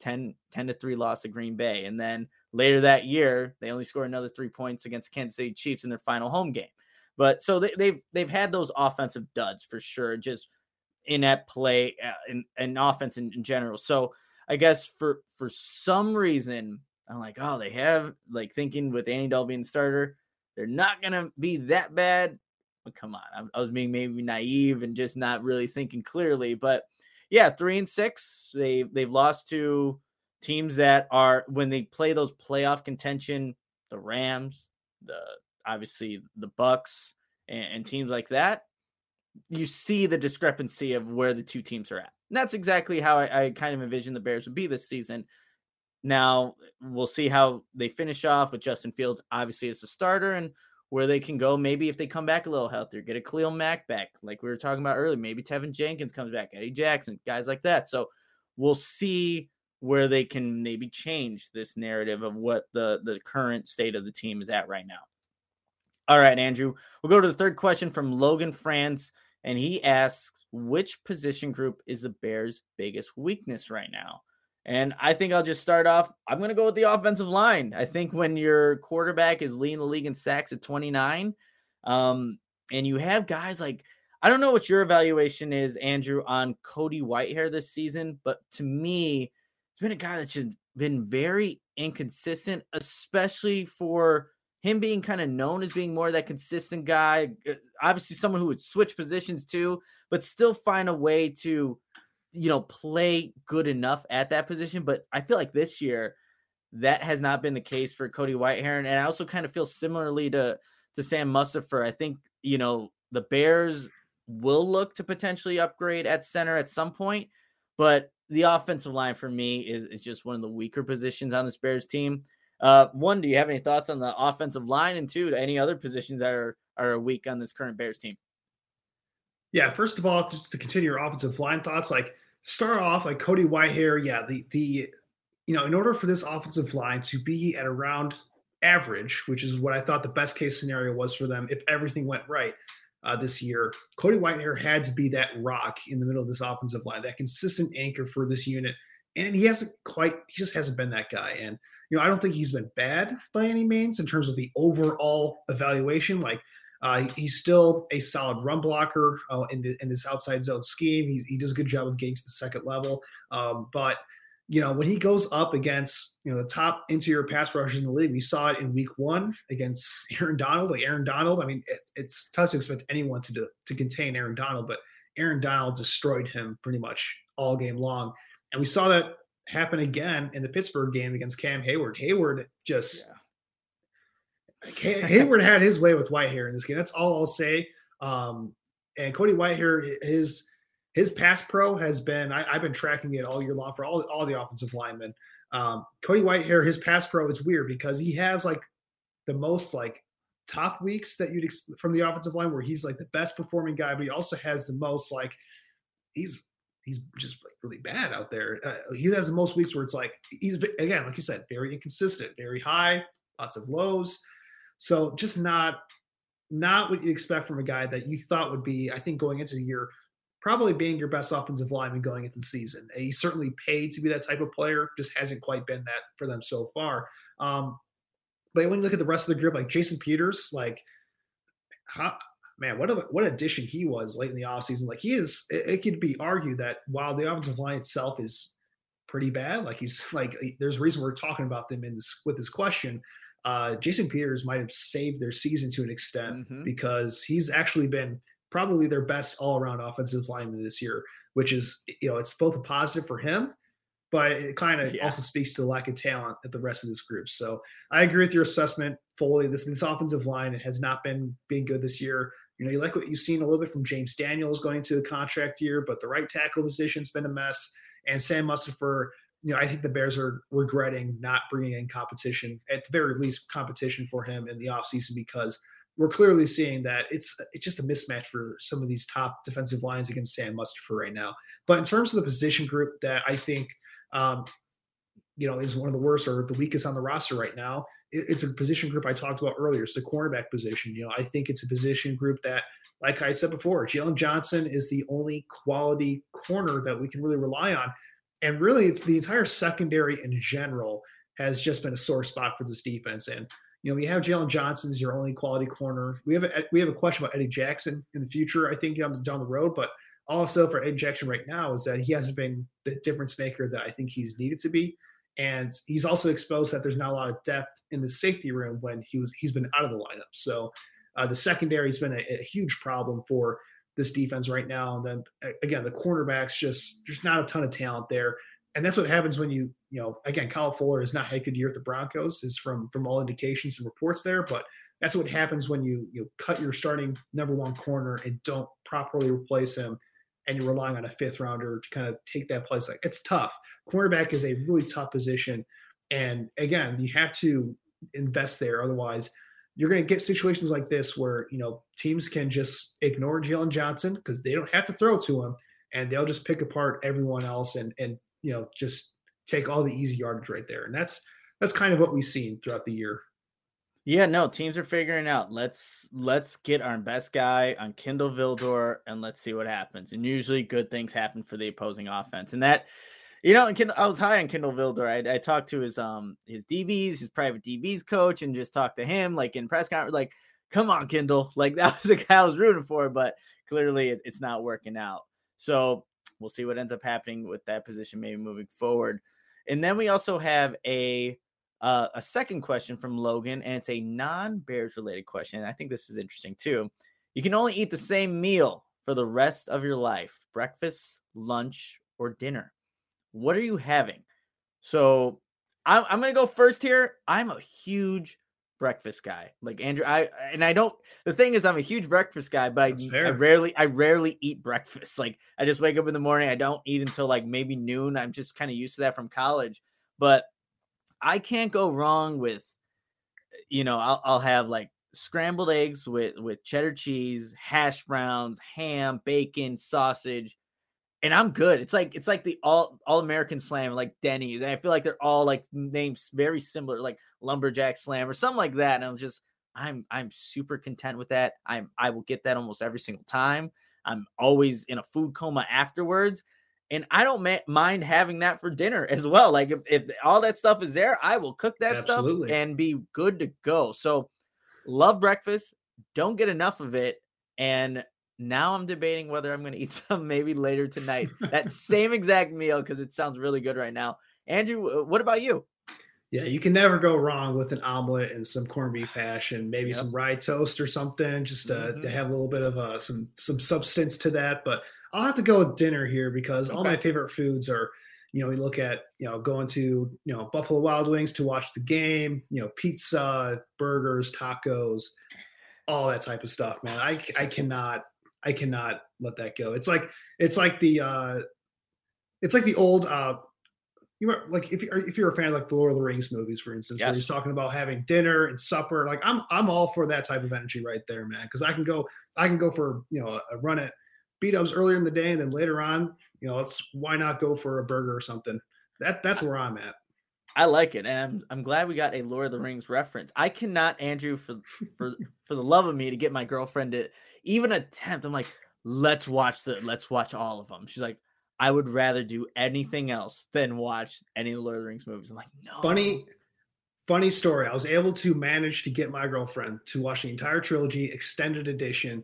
10-3 loss to Green Bay. And then later that year, they only scored another 3 points against Kansas City Chiefs in their final home game. But so they've had those offensive duds for sure, just inept play and offense in general. So I guess for some reason, I'm like, oh, they have, like, thinking with Andy Dalton being the starter, they're not going to be that bad. But come on, I was being maybe naive and just not really thinking clearly. But yeah, 3-6, they've lost to teams that are, when they play those playoff contention, the Rams, obviously the Bucks and teams like that, you see the discrepancy of where the two teams are at. And that's exactly how I kind of envisioned the Bears would be this season. Now we'll see how they finish off with Justin Fields, obviously, as a starter, and where they can go. Maybe if they come back a little healthier, get a Khalil Mack back, like we were talking about earlier, maybe Tevin Jenkins comes back, Eddie Jackson, guys like that. So we'll see where they can maybe change this narrative of what the current state of the team is at right now. All right, Andrew, we'll go to the third question from Logan France, and he asks, which position group is the Bears' biggest weakness right now? And I think I'll just start off. I'm going to go with the offensive line. I think when your quarterback is leading the league in sacks at 29, and you have guys like, I don't know what your evaluation is, Andrew, on Cody Whitehair this season, but to me, it's been a guy that's just been very inconsistent, especially for him being kind of known as being more of that consistent guy. Obviously someone who would switch positions too, but still find a way to, play good enough at that position. But I feel like this year that has not been the case for Cody Whitehair. And I also kind of feel similarly to Sam Mustipher. I think, the Bears will look to potentially upgrade at center at some point, but the offensive line for me is just one of the weaker positions on this Bears team. One, do you have any thoughts on the offensive line? And two, any other positions that are weak on this current Bears team? Yeah, first of all, just to continue your offensive line thoughts, like start off like Cody Whitehair. Yeah, in order for this offensive line to be at around average, which is what I thought the best case scenario was for them if everything went right this year, Cody Whitehair had to be that rock in the middle of this offensive line, that consistent anchor for this unit. And he just hasn't been that guy. And, I don't think he's been bad by any means in terms of the overall evaluation. Like, he's still a solid run blocker in this outside zone scheme. He does a good job of getting to the second level. But when he goes up against, the top interior pass rushers in the league, we saw it in week 1 against Aaron Donald. Like Aaron Donald, I mean, it's tough to expect anyone to contain Aaron Donald, but Aaron Donald destroyed him pretty much all game long. And we saw that happen again in the Pittsburgh game against Cam Hayward. Hayward Hayward had his way with Whitehair in this game. That's all I'll say. And Cody Whitehair, his pass pro has been, I've been tracking it all year long for all the offensive linemen. Cody Whitehair, his pass pro is weird because he has like the most like top weeks that you'd from the offensive line where he's like the best performing guy, but he also has the most like, he's just like really bad out there. He has the most weeks where it's like, he's, again, like you said, very inconsistent, very high, lots of lows. So just not what you expect from a guy that you thought would be, I think, going into the year, probably being your best offensive lineman going into the season. And he's certainly paid to be that type of player, just hasn't quite been that for them so far. But when you look at the rest of the group, like Jason Peters, like man, what addition he was late in the offseason. Like it could be argued that while the offensive line itself is pretty bad, like there's a reason we're talking about them with this question. Jason Peters might have saved their season to an extent because he's actually been probably their best all-around offensive lineman this year, which is, it's both a positive for him, but it kind of also speaks to the lack of talent at the rest of this group. So I agree with your assessment fully. This offensive line, it has not been good this year. You like what you've seen a little bit from James Daniels going to a contract year, but the right tackle position's been a mess. And Sam Mustipher, I think the Bears are regretting not bringing in competition, at the very least competition for him in the offseason, because we're clearly seeing that it's just a mismatch for some of these top defensive lines against Sam Mustipher right now. But in terms of the position group that I think, is one of the worst or the weakest on the roster right now, it's a position group I talked about earlier. It's the cornerback position. I think it's a position group that, like I said before, Jalen Johnson is the only quality corner that we can really rely on. And really, it's the entire secondary in general has just been a sore spot for this defense. And, you have Jalen Johnson as your only quality corner. We have a question about Eddie Jackson in the future, I think, down the road. But also for Eddie Jackson right now is that he hasn't been the difference maker that I think he's needed to be. And he's also exposed that there's not a lot of depth in the safety room when he's been out of the lineup. So the secondary has been a huge problem for this defense right now. And then again, the cornerbacks, there's not a ton of talent there. And that's what happens when again, Kyle Fuller has not had a good year at the Broncos, is from all indications and reports there. But that's what happens when you cut your starting number one corner and don't properly replace him, and you're relying on a fifth rounder to kind of take that place. Like, it's tough. Cornerback is a really tough position. And again, you have to invest there. Otherwise, you're going to get situations like this where, teams can just ignore Jalen Johnson because they don't have to throw to him, and they'll just pick apart everyone else and just take all the easy yardage right there. And that's kind of what we've seen throughout the year. Yeah, no, teams are figuring out, let's get our best guy on Kindle Vildor and let's see what happens. And usually good things happen for the opposing offense. And that, I was high on Kindle Vildor. I talked to his DBs, his private DBs coach, and just talked to him like in press conference, like, come on, Kindle. Like, that was the guy I was rooting for, but clearly it's not working out. So we'll see what ends up happening with that position maybe moving forward. And then we also have a second question from Logan, and it's a non-Bears related question. And I think this is interesting too. You can only eat the same meal for the rest of your life: breakfast, lunch, or dinner. What are you having? So I'm going to go first here. I'm a huge breakfast guy, like Andrew. The thing is, I'm a huge breakfast guy, but I rarely eat breakfast. Like, I just wake up in the morning. I don't eat until like maybe noon. I'm just kind of used to that from college, but I can't go wrong with, I'll have like scrambled eggs with cheddar cheese, hash browns, ham, bacon, sausage, and I'm good. It's like the all American slam, like Denny's, and I feel like they're all like names very similar, like lumberjack slam or something like that. And I'm super content with that. I will get that almost every single time. I'm always in a food coma afterwards. And I don't mind having that for dinner as well. Like, if all that stuff is there, I will cook that stuff and be good to go. So love breakfast. Don't get enough of it. And now I'm debating whether I'm going to eat some maybe later tonight. That same exact meal, because it sounds really good right now. Andrew, what about you? Yeah, you can never go wrong with an omelet and some corned beef hash and maybe some rye toast or something, just to have a little bit of some substance to that. But I'll have to go with dinner here because all my favorite foods are, we look at, going to, Buffalo Wild Wings to watch the game, pizza, burgers, tacos, all that type of stuff, man. I cannot let that go. It's like the old, if you're a fan of like the Lord of the Rings movies, for instance, where he's talking about having dinner and supper, like I'm all for that type of energy right there, man. Because I can go for a run at B-dubs earlier in the day, and then later on, why not go for a burger or something? That's where I'm at. I like it, and I'm glad we got a Lord of the Rings reference. I cannot, Andrew, for the love of me, to get my girlfriend to even attempt. I'm like, let's watch all of them. She's like, I would rather do anything else than watch any of the Lord of the Rings movies. I'm like, no. Funny story. I was able to manage to get my girlfriend to watch the entire trilogy, extended edition.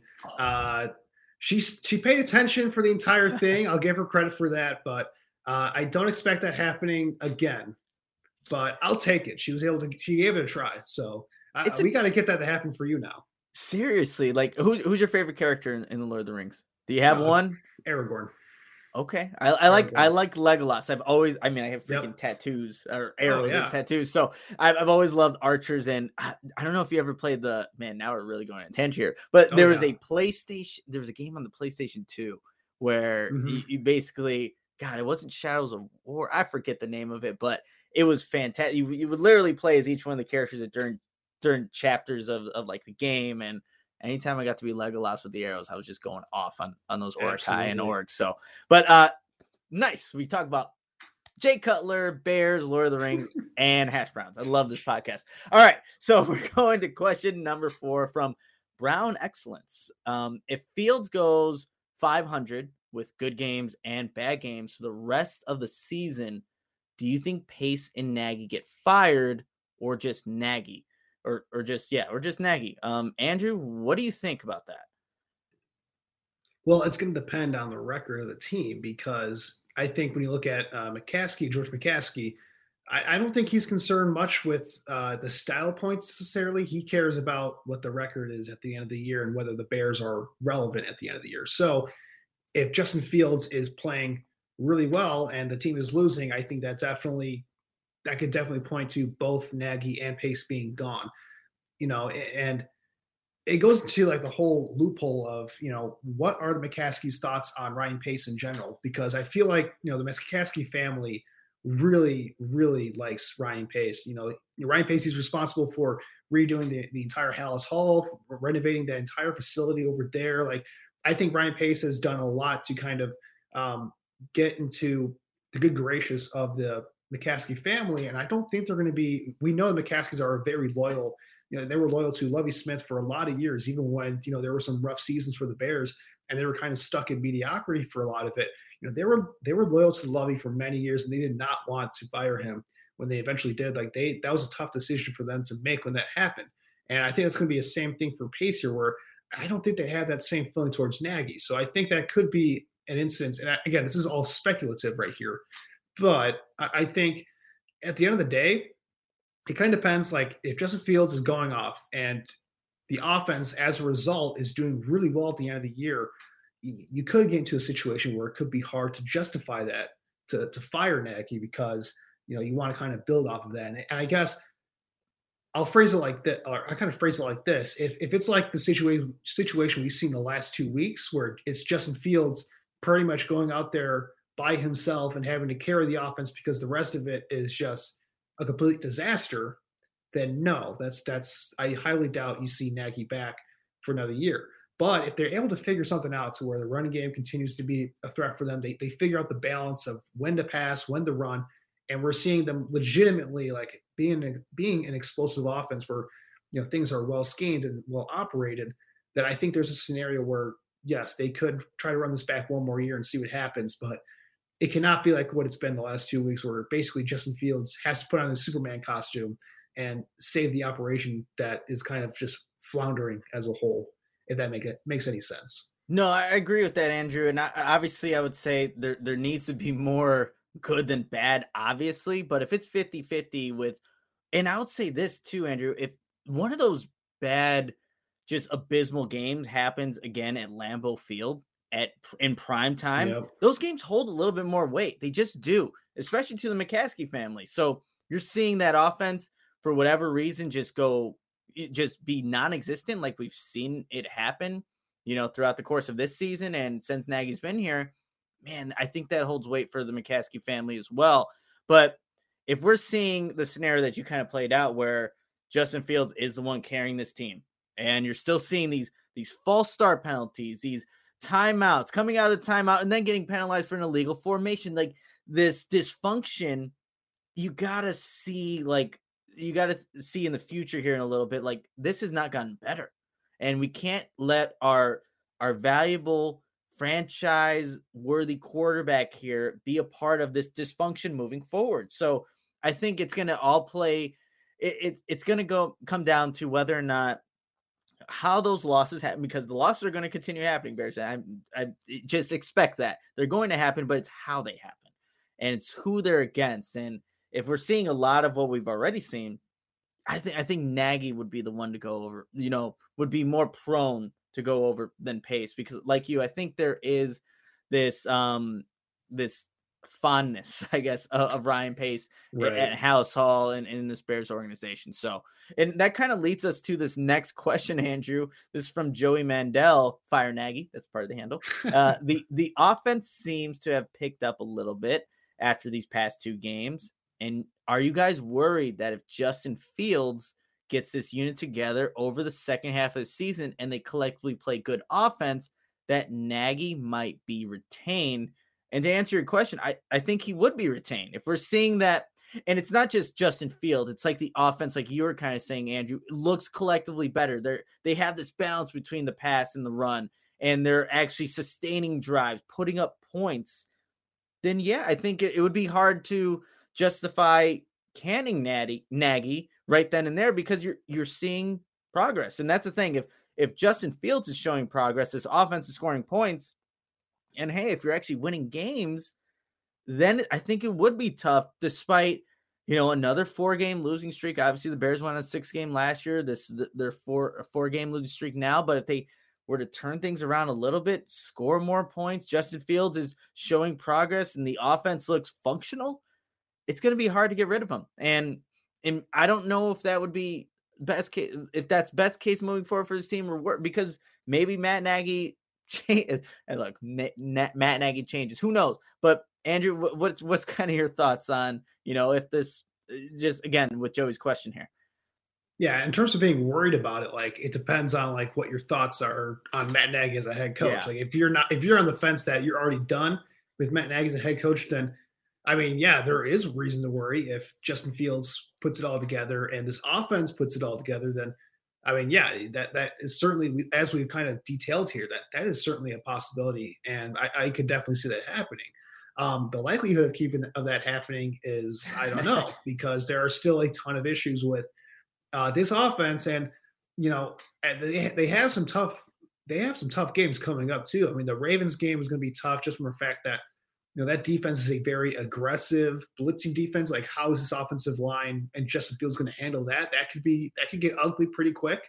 She paid attention for the entire thing. I'll give her credit for that, but I don't expect that happening again. But I'll take it. She gave it a try. So we got to get that to happen for you now. Seriously, like who's your favorite character in the Lord of the Rings? Do you have one? Aragorn. Okay. I like Legolas. I have freaking tattoos or arrows tattoos. So I've always loved archers, and I don't know if you ever played now we're really going on a tangent here, but there was a game on the PlayStation 2 where you basically, it wasn't Shadows of War. I forget the name of it, but it was fantastic. You would literally play as each one of the characters during chapters of like the game, and anytime I got to be Legolas with the arrows, I was just going off on those Orcai and orcs. So, but nice. We talk about Jay Cutler, Bears, Lord of the Rings, and hash browns. I love this podcast. All right, so we're going to question number 4 from Brown Excellence. If Fields goes 500 with good games and bad games for the rest of the season, do you think Pace and Nagy get fired, or just Nagy? Or just Nagy. Andrew, what do you think about that? Well, it's going to depend on the record of the team, because I think when you look at George McCaskey, I don't think he's concerned much with the style points necessarily. He cares about what the record is at the end of the year and whether the Bears are relevant at the end of the year. So if Justin Fields is playing really well and the team is losing, I think that could definitely point to both Nagy and Pace being gone, and it goes into like the whole loophole of, what are the McCaskey's thoughts on Ryan Pace in general? Because I feel like, the McCaskey family really, really likes Ryan Pace. Ryan Pace is responsible for redoing the entire Hallis Hall, renovating the entire facility over there. Like, I think Ryan Pace has done a lot to kind of get into the good gracious of the McCaskey family, and I don't think they're going to be. We know the McCaskeys are very loyal. They were loyal to Lovie Smith for a lot of years, even when there were some rough seasons for the Bears, and they were kind of stuck in mediocrity for a lot of it. They were loyal to Lovie for many years, and they did not want to fire him when they eventually did. That was a tough decision for them to make when that happened, and I think it's going to be the same thing for Pace here, where I don't think they have that same feeling towards Nagy. So I think that could be an instance. And again, this is all speculative right here. But I think at the end of the day, it kind of depends. Like, if Justin Fields is going off and the offense, as a result, is doing really well at the end of the year, you could get into a situation where it could be hard to justify that to fire Nagy, because you want to kind of build off of that. And I guess I'll phrase it like that, or I kind of phrase it like this: if it's like the situation we've seen the last 2 weeks, where it's Justin Fields pretty much going out there by himself and having to carry the offense because the rest of it is just a complete disaster, then no, that's I highly doubt you see Nagy back for another year. But if they're able to figure something out to where the running game continues to be a threat for them, they figure out the balance of when to pass, when to run, and we're seeing them legitimately like being an explosive offense where things are well schemed and well operated, that I think there's a scenario where yes, they could try to run this back one more year and see what happens, but it cannot be like what it's been the last 2 weeks, where basically Justin Fields has to put on the Superman costume and save the operation that is kind of just floundering as a whole, if that makes any sense. No, I agree with that, Andrew. And obviously I would say there needs to be more good than bad, obviously. But if it's 50-50 with, and I would say this too, Andrew, if one of those bad, just abysmal games happens again at Lambeau Field in prime time, those games hold a little bit more weight. They just do, especially to the McCaskey family. So you're seeing that offense, for whatever reason, just be non-existent, like we've seen it happen, throughout the course of this season. And since Nagy's been here, man, I think that holds weight for the McCaskey family as well. But if we're seeing the scenario that you kind of played out, where Justin Fields is the one carrying this team, and you're still seeing these false start penalties, these timeouts, coming out of the timeout and then getting penalized for an illegal formation, like this dysfunction, you gotta see in the future here in a little bit, like this has not gotten better, and we can't let our valuable franchise worthy quarterback here be a part of this dysfunction moving forward. So I think it's going to all play it's going to come down to whether or not how those losses happen, because the losses are going to continue happening, Bears. I just expect that they're going to happen, but it's how they happen and it's who they're against. And if we're seeing a lot of what we've already seen, I think Nagy would be the one to go over, would be more prone to go over than Pace, because like you, I think there is this fondness, I guess, of Ryan Pace at Halas Hall and in this Bears organization. So, and that kind of leads us to this next question, Andrew. This is from Joey Mandel, Fire Nagy. That's part of the handle. The offense seems to have picked up a little bit after these past 2 games. And are you guys worried that if Justin Fields gets this unit together over the second half of the season and they collectively play good offense, that Nagy might be retained? And to answer your question, I think he would be retained. If we're seeing that, and it's not just Justin Fields, it's like the offense, like you were kind of saying, Andrew, looks collectively better. They have this balance between the pass and the run, and they're actually sustaining drives, putting up points. Then, yeah, I think it would be hard to justify canning Nagy right then and there, because you're seeing progress. And that's the thing. If Justin Fields is showing progress, this offense is scoring points, and hey, if you're actually winning games, then I think it would be tough, despite, another 4-game losing streak. Obviously, the Bears won a 6-game last year. They're a 4-game losing streak now. But if they were to turn things around a little bit, score more points, Justin Fields is showing progress, and the offense looks functional, it's going to be hard to get rid of him. And I don't know if that would be best case, if that's best case moving forward for this team, or work, because maybe Matt Nagy changes. And look, Matt Nagy changes. Who knows? But Andrew, what's kind of your thoughts on, if this, just again with Joey's question here? Yeah, in terms of being worried about it, like, it depends on like what your thoughts are on Matt Nagy as a head coach. Yeah. Like if you're on the fence that you're already done with Matt Nagy as a head coach, then I mean, yeah, there is reason to worry. If Justin Fields puts it all together and this offense puts it all together, then I mean, yeah, that is certainly, as we've kind of detailed here, that is certainly a possibility, and I could definitely see that happening. The likelihood of that happening is, I don't know, because there are still a ton of issues with this offense, and they have some tough games coming up too. I mean, the Ravens game is going to be tough just from the fact that that defense is a very aggressive blitzing defense. Like, how is this offensive line and Justin Fields going to handle that? That could get ugly pretty quick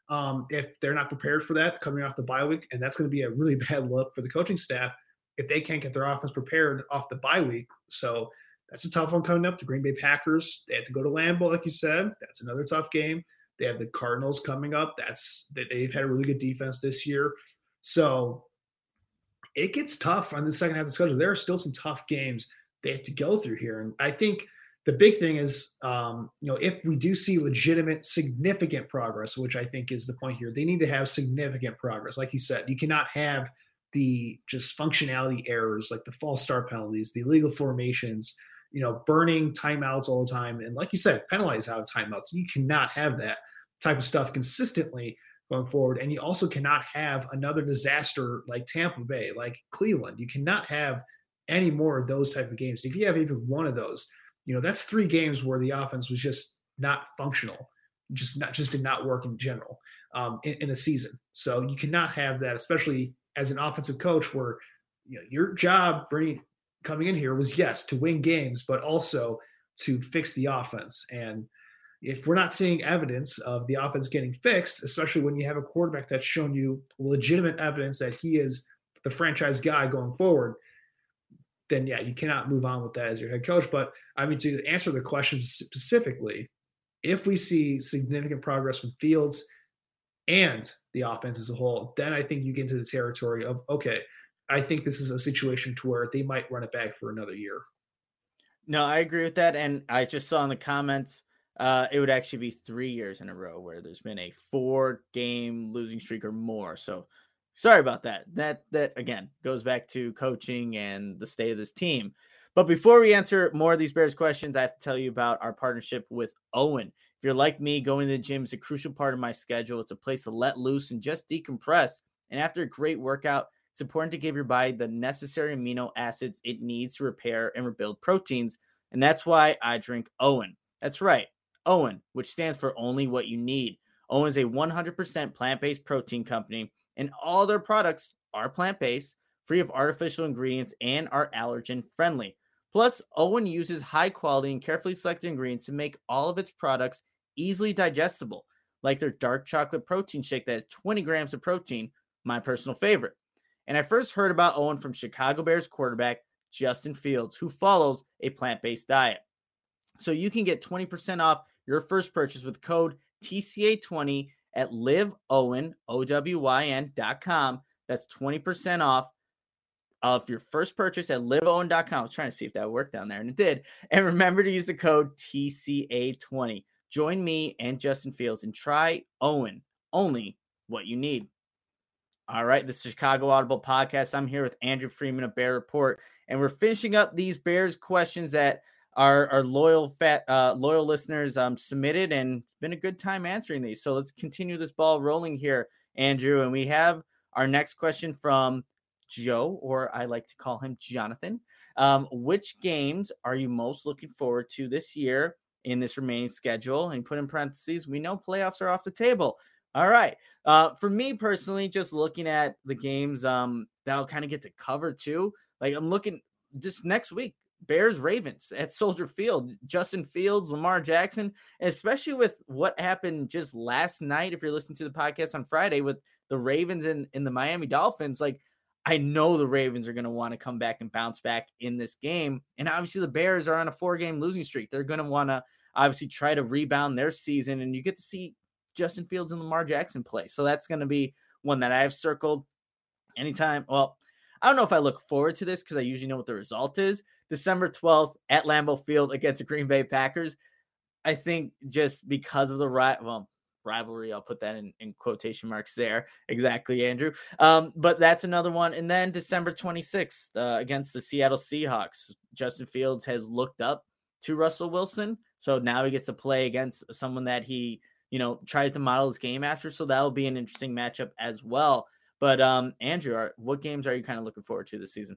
if they're not prepared for that coming off the bye week. And that's going to be a really bad look for the coaching staff if they can't get their offense prepared off the bye week. So that's a tough one coming up. The Green Bay Packers, they have to go to Lambeau, like you said. That's another tough game. They have the Cardinals coming up. They've had a really good defense this year. So it gets tough on the second half of the schedule. There are still some tough games they have to go through here. And I think the big thing is, if we do see legitimate, significant progress, which I think is the point here, they need to have significant progress. Like you said, you cannot have the just functionality errors, like the false start penalties, the illegal formations, burning timeouts all the time. And like you said, penalize out of timeouts. You cannot have that type of stuff consistently going forward. And you also cannot have another disaster like Tampa Bay, like Cleveland. You cannot have any more of those type of games. If you have even one of those, that's 3 games where the offense was just not functional, just did not work in general in a season. So you cannot have that, especially as an offensive coach, where your job coming in here was, yes, to win games, but also to fix the offense. And if we're not seeing evidence of the offense getting fixed, especially when you have a quarterback that's shown you legitimate evidence that he is the franchise guy going forward, then yeah, you cannot move on with that as your head coach. But I mean, to answer the question specifically, if we see significant progress from Fields and the offense as a whole, then I think you get into the territory of, okay, I think this is a situation to where they might run it back for another year. No, I agree with that. And I just saw in the comments, it would actually be 3 years in a row where there's been a 4-game losing streak or more. So sorry about that. That again goes back to coaching and the state of this team. But before we answer more of these Bears questions, I have to tell you about our partnership with Owen. If you're like me, going to the gym is a crucial part of my schedule. It's a place to let loose and just decompress. And after a great workout, it's important to give your body the necessary amino acids it needs to repair and rebuild proteins. And that's why I drink Owen. That's right. OWYN, which stands for Only What You Need. OWYN is a 100% plant-based protein company, and all their products are plant-based, free of artificial ingredients, and are allergen-friendly. Plus, OWYN uses high-quality and carefully selected ingredients to make all of its products easily digestible, like their dark chocolate protein shake that has 20 grams of protein, my personal favorite. And I first heard about OWYN from Chicago Bears quarterback Justin Fields, who follows a plant-based diet. So you can get 20% off your first purchase with code TCA20 at liveowyn.com. That's 20% off of your first purchase at liveowyn.com. I was trying to see if that worked down there, and it did. And remember to use the code TCA20. Join me and Justin Fields and try OWYN, only what you need. All right, this is Chicago Audible Podcast. I'm here with Andrew Freeman of Bear Report, and we're finishing up these Bears questions that our loyal listeners submitted, and it's been a good time answering these. So let's continue this ball rolling here, Andrew. And we have our next question from Joe, or I like to call him Jonathan. Which games are you most looking forward to this year in this remaining schedule? And put in parentheses, we know playoffs are off the table. All right. For me personally, just looking at the games that I'll kind of get to cover too. Like I'm looking just next week, Bears Ravens at Soldier Field, Justin Fields, Lamar Jackson, and especially with what happened just last night. If you're listening to the podcast on Friday with the Ravens and the Miami Dolphins, like I know the Ravens are going to want to come back and bounce back in this game. And obviously the Bears are on a 4-game losing streak. They're going to want to obviously try to rebound their season, and you get to see Justin Fields and Lamar Jackson play. So that's going to be one that I have circled anytime. Well, I don't know if I look forward to this because I usually know what the result is. December 12th at Lambeau Field against the Green Bay Packers. I think just because of the rivalry, I'll put that in quotation marks there. Exactly, Andrew. But that's another one. And then December 26th against the Seattle Seahawks. Justin Fields has looked up to Russell Wilson. So now he gets to play against someone that he, tries to model his game after. So that'll be an interesting matchup as well. But Andrew, what games are you kind of looking forward to this season?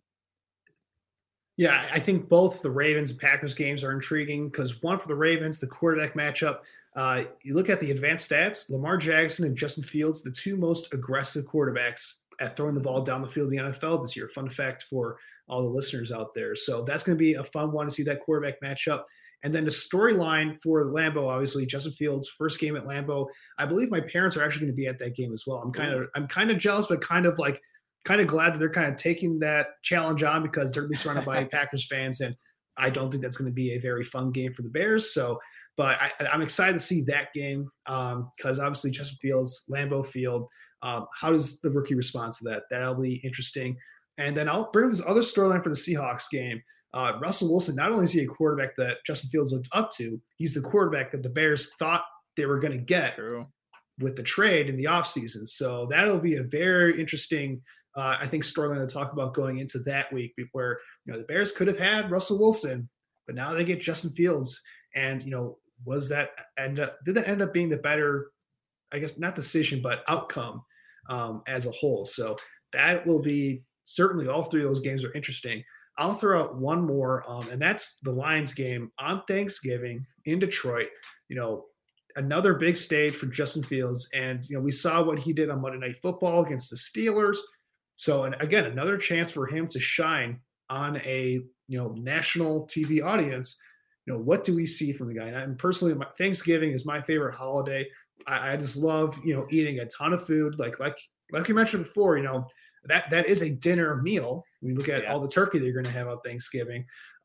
Yeah, I think both the Ravens and Packers games are intriguing because one for the Ravens, the quarterback matchup, you look at the advanced stats, Lamar Jackson and Justin Fields, the two most aggressive quarterbacks at throwing the ball down the field in the NFL this year. Fun fact for all the listeners out there. So that's going to be a fun one to see that quarterback matchup. And then the storyline for Lambeau, obviously Justin Fields' first game at Lambeau. I believe my parents are actually going to be at that game as well. I'm kind of jealous, but kind of glad that they're kind of taking that challenge on because they're going to be surrounded by Packers fans, and I don't think that's going to be a very fun game for the Bears. So, but I'm excited to see that game because obviously Justin Fields, Lambeau Field. How does the rookie respond to that? That'll be interesting. And then I'll bring this other storyline for the Seahawks game. Russell Wilson, not only is he a quarterback that Justin Fields looked up to, he's the quarterback that the Bears thought they were going to get with the trade in the offseason. So that'll be a very interesting I think storyline to talk about going into that week where, the Bears could have had Russell Wilson, but now they get Justin Fields. And, did that end up being the better, I guess, not decision, but outcome as a whole. So that will be certainly all three of those games are interesting. I'll throw out one more, and that's the Lions game on Thanksgiving in Detroit. Another big stage for Justin Fields. And, we saw what he did on Monday Night Football against the Steelers. So, and again, another chance for him to shine on a, national TV audience. What do we see from the guy? And personally, Thanksgiving is my favorite holiday. I just love, eating a ton of food. Like you mentioned before, that is a dinner meal. When you look at all the turkey that you're going to have on Thanksgiving.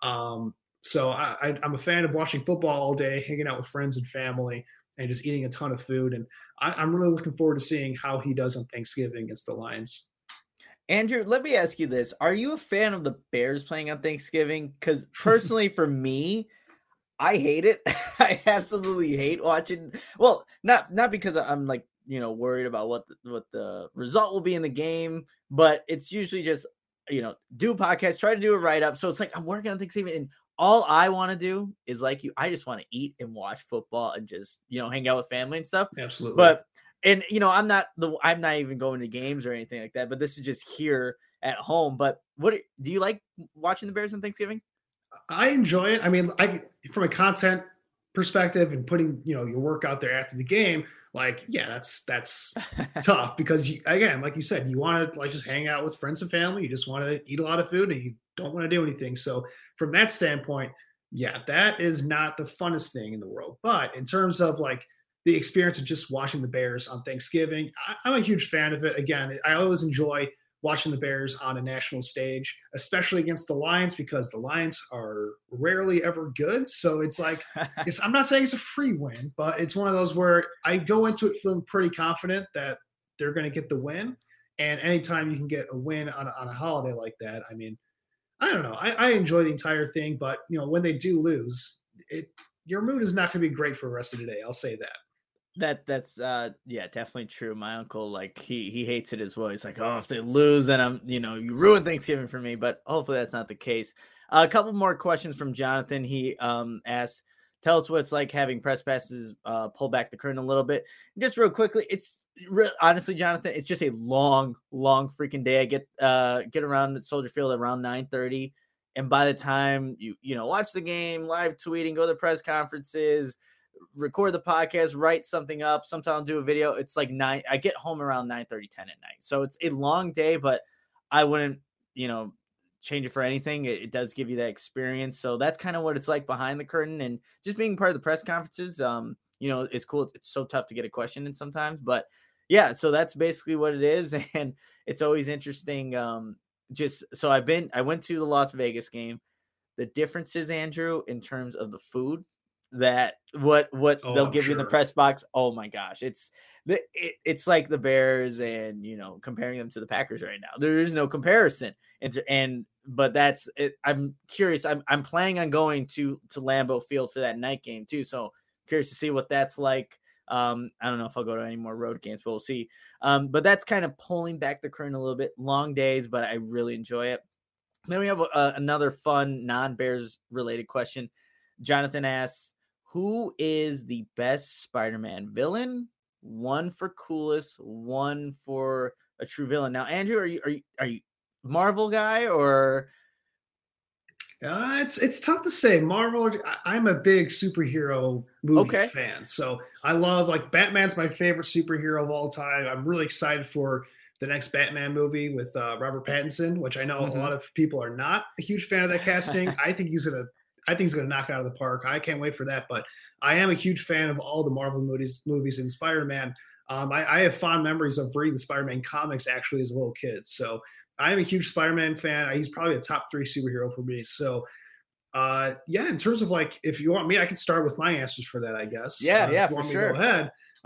So I'm a fan of watching football all day, hanging out with friends and family, and just eating a ton of food. And I'm really looking forward to seeing how he does on Thanksgiving against the Lions. Andrew, let me ask you this. Are you a fan of the Bears playing on Thanksgiving? Because personally, for me, I hate it. I absolutely hate watching. Well, not because I'm worried about what the result will be in the game, but it's usually just, do a podcast, try to do a write-up. So it's like I'm working on Thanksgiving, and all I want to do is I just want to eat and watch football and just, hang out with family and stuff. Absolutely. But and I'm not even going to games or anything like that, but this is just here at home. But what do you like watching the Bears on Thanksgiving? I enjoy it. I mean, from a content perspective and putting, your work out there after the game, like, yeah, that's tough because again, like you said, you want to like just hang out with friends and family. You just want to eat a lot of food and you don't want to do anything. So from that standpoint, yeah, that is not the funnest thing in the world. But in terms of like the experience of just watching the Bears on Thanksgiving, I'm a huge fan of it. Again, I always enjoy watching the Bears on a national stage, especially against the Lions, because the Lions are rarely ever good. So it's like, I'm not saying it's a free win, but it's one of those where I go into it feeling pretty confident that they're going to get the win. And anytime you can get a win on a holiday like that, I mean, I don't know. I enjoy the entire thing, but when they do lose, your mood is not going to be great for the rest of the day. I'll say that. That's yeah, definitely true. My uncle, like he hates it as well. He's like, oh, if they lose, then I'm, you ruin Thanksgiving for me. But hopefully that's not the case. A couple more questions from Jonathan. He asked, tell us what it's like having press passes pull back the curtain a little bit. Just real quickly, honestly, Jonathan, it's just a long freaking day. I get around at Soldier Field around 9:30, and by the time you watch the game, live tweeting, go to the press conferences, record the podcast, write something up, sometimes do a video, it's like 9. I get home around 9:30, 10 at night. So it's a long day, but I wouldn't, change it for anything. It does give you that experience. So that's kind of what it's like behind the curtain, and just being part of the press conferences. It's cool. It's so tough to get a question in sometimes, but yeah, so that's basically what it is. And it's always interesting. I went to the Las Vegas game. The differences, Andrew, in terms of the food, that what they'll give you in the press box. Oh my gosh. It's like the Bears and, comparing them to the Packers right now. There is no comparison. But that's it. I'm curious. I'm planning on going to Lambeau Field for that night game too. So curious to see what that's like. I don't know if I'll go to any more road games, but we'll see. But that's kind of pulling back the curtain a little bit. Long days, but I really enjoy it. Then we have another fun non-Bears related question. Jonathan asks, who is the best Spider-Man villain? One for coolest, one for a true villain. Now, Andrew, are you Marvel guy or? It's tough to say. Marvel. I'm a big superhero movie fan, so I love Batman's my favorite superhero of all time. I'm really excited for the next Batman movie with Robert Pattinson, which I know a lot of people are not a huge fan of that casting. I think he's gonna knock it out of the park. I can't wait for that. But I am a huge fan of all the Marvel movies and Spider-Man. I have fond memories of reading the Spider-Man comics actually as a little kid. So I am a huge Spider-Man fan. He's probably a top 3 superhero for me. So in terms of if you want me, I can start with my answers for that, I guess. Yeah, for sure. Go ahead.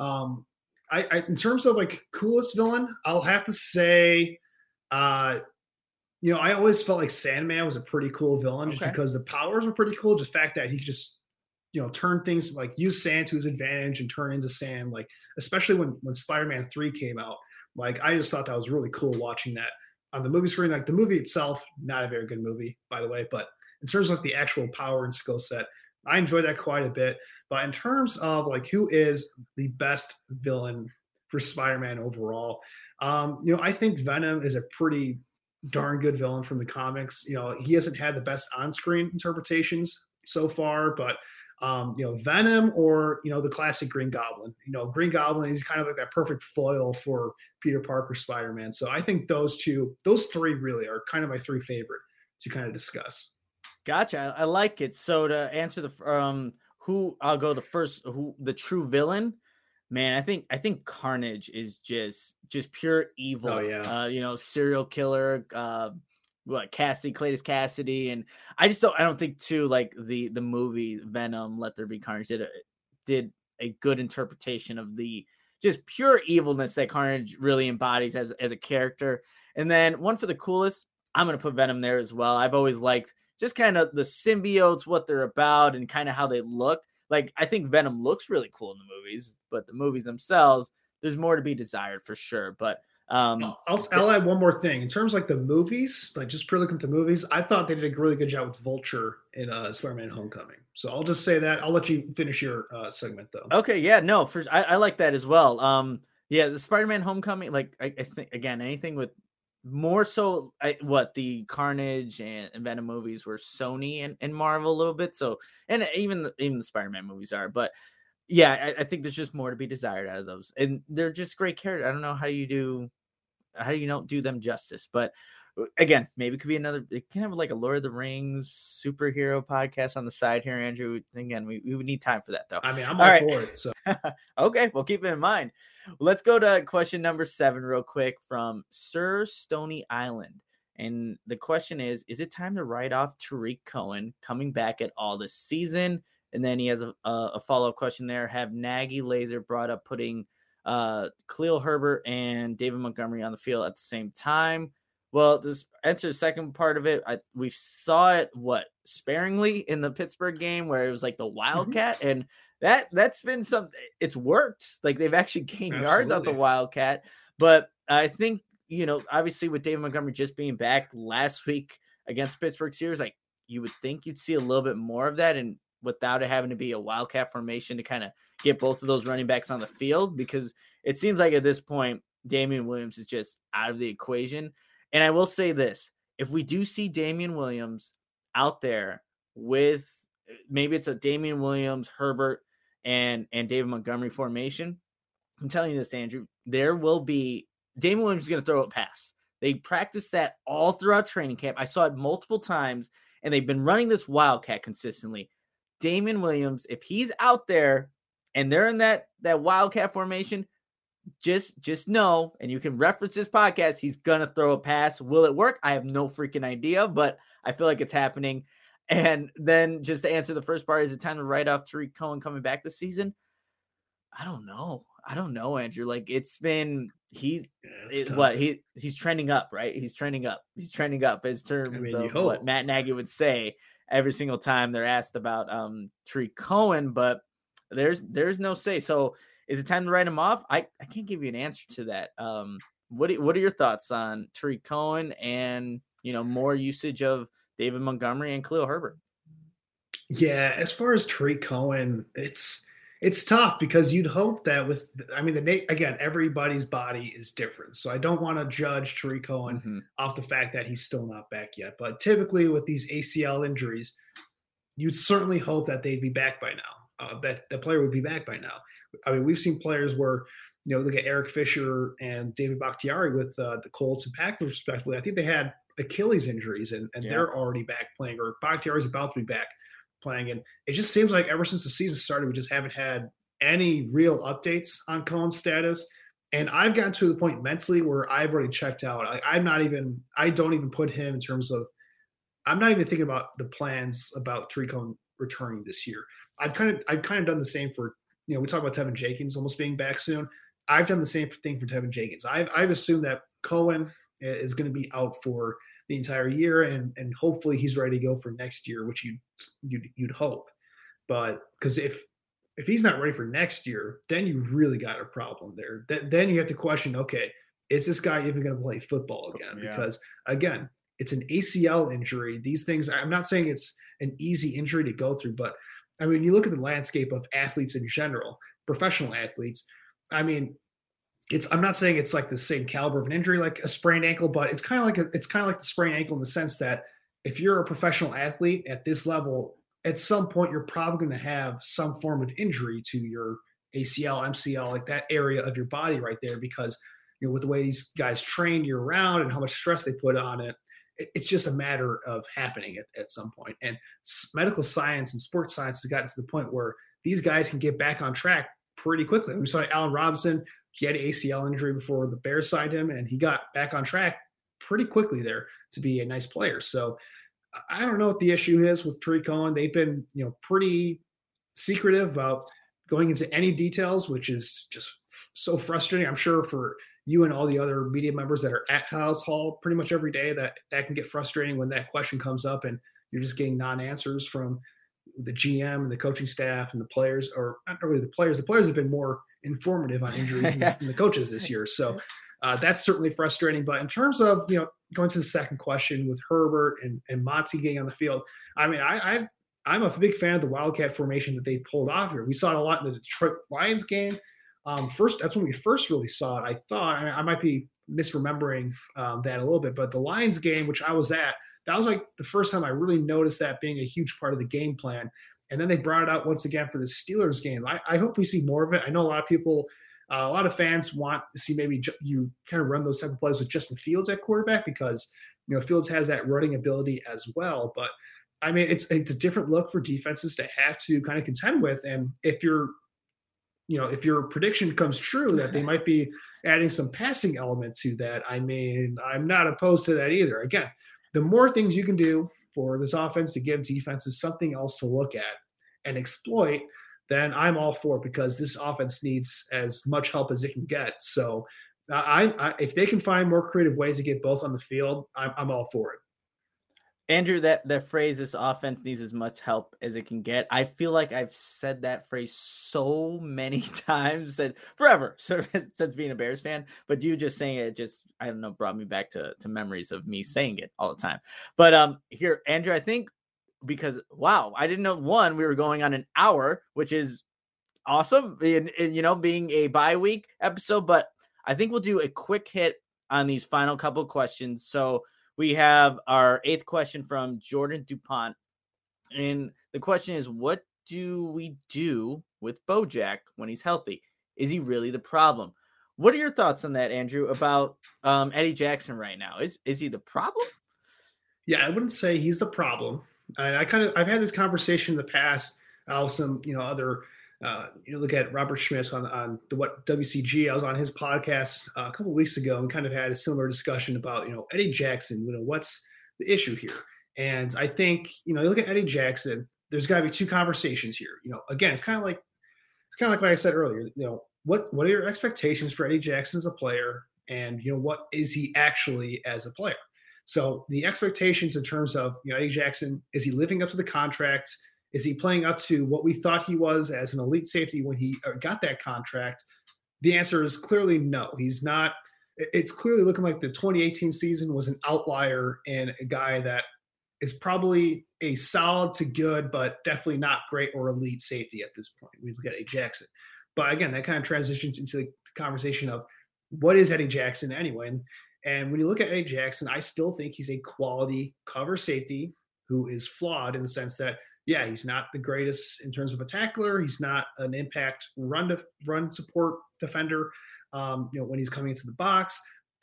I in terms of coolest villain, I'll have to say, I always felt like Sandman was a pretty cool villain just because the powers were pretty cool. Just the fact that he could just, turn things use sand to his advantage and turn into sand. Especially when Spider-Man 3 came out, I just thought that was really cool watching that on the movie screen. The movie itself, not a very good movie, by the way, but in terms of the actual power and skill set, I enjoyed that quite a bit. But in terms of who is the best villain for Spider-Man overall, I think Venom is a pretty darn good villain from the comics. He hasn't had the best on-screen interpretations so far, but Venom or the classic Green Goblin. Green Goblin is kind of that perfect foil for Peter Parker Spider-Man. So I think those 3 really are kind of my 3 favorite to kind of discuss. Gotcha. I like it. So to answer the who I'll go the first, the true villain, man, I think Carnage is just pure evil. Oh yeah. Serial killer, Cletus Cassidy, and I don't think too the movie Venom Let There Be Carnage did a good interpretation of the just pure evilness that Carnage really embodies as a character. And then one for the coolest, I'm gonna put Venom there as well. I've always liked just kind of the symbiotes, what they're about, and kind of how they look. I think Venom looks really cool in the movies, but the movies themselves, there's more to be desired for sure. But I'll add one more thing in terms of the movies, just purely looking at the movies. I thought they did a really good job with Vulture in Spider-Man: Homecoming. So I'll just say that. I'll let you finish your segment though. Okay, yeah, no, I like that as well. The Spider-Man: Homecoming, I think again anything with more so what the Carnage and Venom movies were Sony and Marvel a little bit. So, and even the Spider-Man movies are, but yeah, I think there's just more to be desired out of those, and they're just great characters. I don't know how you don't do them justice, but again, maybe it could be it can have like a Lord of the Rings superhero podcast on the side here, Andrew. Again, we would need time for that though. I mean, I'm all for it. So okay, we'll keep it in mind. Let's go to question number 7 real quick from Sir Stony Island. And the question is it time to write off Tariq Cohen coming back at all this season? And then he has a follow-up question there. Have Nagy Laser brought up putting Khalil Herbert and David Montgomery on the field at the same time? Well, this answer the second part of it. We saw it sparingly in the Pittsburgh game where it was like the Wildcat, and that's been something. It's worked. Like they've actually gained yards out the Wildcat. But I think obviously with David Montgomery just being back last week against Pittsburgh Steelers, like you would think you'd see a little bit more of that, and without it having to be a Wildcat formation to kind of get both of those running backs on the field, because it seems like at this point Damian Williams is just out of the equation. And I will say this, if we do see Damian Williams out there with maybe it's a Damian Williams, Herbert, and David Montgomery formation, I'm telling you this, Andrew, there will be Damian Williams is going to throw a pass. They practice that all throughout training camp. I saw it multiple times, and they've been running this Wildcat consistently. Damian Williams, if he's out there and they're in that Wildcat formation, just know, and you can reference this podcast, he's going to throw a pass. Will it work? I have no freaking idea, but I feel like it's happening. And then just to answer the first part, is it time to write off Tariq Cohen coming back this season? I don't know, Andrew. Like he's trending up, right? He's trending up as terms of what Matt Nagy would say every single time they're asked about Tariq Cohen, but there's no say. So is it time to write him off? I can't give you an answer to that. What are your thoughts on Tariq Cohen and more usage of David Montgomery and Khalil Herbert? Yeah, as far as Tariq Cohen, it's tough because you'd hope that again, everybody's body is different. So I don't want to judge Tariq Cohen off the fact that he's still not back yet. But typically with these ACL injuries, you'd certainly hope that they'd be back by now, that the player would be back by now. I mean, we've seen players where, look at Eric Fisher and David Bakhtiari with the Colts and Packers, respectively. I think they had Achilles injuries and they're already back playing, or Bakhtiari's about to be back playing. And it just seems like ever since the season started, we just haven't had any real updates on Cohen's status. And I've gotten to the point mentally where I've already checked out. I don't even put him in terms of, I'm not even thinking about the plans about Tariq Cohen returning this year. I've kind of done the same for, we talk about Tevin Jenkins almost being back soon. I've done the same thing for Tevin Jenkins. I've assumed that Cohen is going to be out for the entire year, and hopefully he's ready to go for next year, which you'd hope. But because if he's not ready for next year, then you really got a problem there. Then you have to question, okay, is this guy even going to play football again? Yeah. Because again, it's an ACL injury. These things, I'm not saying it's an easy injury to go through, but I mean, you look at the landscape of athletes in general, professional athletes. I mean, I'm not saying it's like the same caliber of an injury like a sprained ankle, but it's kind of like the sprained ankle in the sense that if you're a professional athlete at this level, at some point you're probably going to have some form of injury to your ACL, MCL, like that area of your body right there, because with the way these guys train year round and how much stress they put on it, it's just a matter of happening at some point. And medical science and sports science has gotten to the point where these guys can get back on track pretty quickly. We saw Allen Robinson. He had an ACL injury before the Bears signed him, and he got back on track pretty quickly there to be a nice player. So I don't know what the issue is with Tariq Cohen. They've been, pretty secretive about going into any details, which is just so frustrating. I'm sure for you and all the other media members that are at Halas Hall pretty much every day, that can get frustrating when that question comes up and you're just getting non-answers from the GM and the coaching staff and the players, or not really the players. The players have been more informative on injuries than the coaches this year. So that's certainly frustrating. But in terms of, going to the second question with Herbert and Monty getting on the field, I mean, I'm a big fan of the Wildcat formation that they pulled off here. We saw it a lot in the Detroit Lions game. That's when we first really saw it. I thought, I might be misremembering that a little bit. But the Lions game, which I was at, that was like the first time I really noticed that being a huge part of the game plan. And then they brought it out once again for the Steelers game. I hope we see more of it. I know a lot of people, a lot of fans want to see maybe you kind of run those type of plays with Justin Fields at quarterback because, Fields has that running ability as well. But, I mean, it's a different look for defenses to have to kind of contend with. And if your prediction comes true that they might be adding some passing element to that, I mean, I'm not opposed to that either. Again, the more things you can do for this offense to give defenses something else to look at and exploit, then I'm all for it because this offense needs as much help as it can get. So if they can find more creative ways to get both on the field, I'm all for it. Andrew, that phrase, this offense needs as much help as it can get. I feel like I've said that phrase so many times, said forever, since being a Bears fan. But you just saying it I don't know, brought me back to memories of me saying it all the time. But here, Andrew, I think because, wow, I didn't know, one, we were going on an hour, which is awesome, being a bye week episode. But I think we'll do a quick hit on these final couple of questions. So we have our 8th question from Jordan DuPont. And the question is, what do we do with Bojack when he's healthy? Is he really the problem? What are your thoughts on that, Andrew, about Eddie Jackson right now? Is he the problem? Yeah, I wouldn't say he's the problem. And I've had this conversation in the past with some, other, look at Robert Schmitz on the WCG. I was on his podcast a couple of weeks ago and kind of had a similar discussion about, Eddie Jackson, what's the issue here? And I think, you look at Eddie Jackson, there's got to be two conversations here. Again, it's kind of like what I said earlier, what are your expectations for Eddie Jackson as a player? And, what is he actually as a player? So the expectations in terms of, Eddie Jackson, is he living up to the contract? Is he playing up to what we thought he was as an elite safety when he got that contract? The answer is clearly no. He's not. It's clearly looking like the 2018 season was an outlier and a guy that is probably a solid to good, but definitely not great or elite safety at this point. We look at Eddie Jackson. But again, that kind of transitions into the conversation of what is Eddie Jackson anyway? And when you look at Eddie Jackson, I still think he's a quality cover safety who is flawed in the sense that, yeah, he's not the greatest in terms of a tackler. He's not an impact run support defender, when he's coming into the box.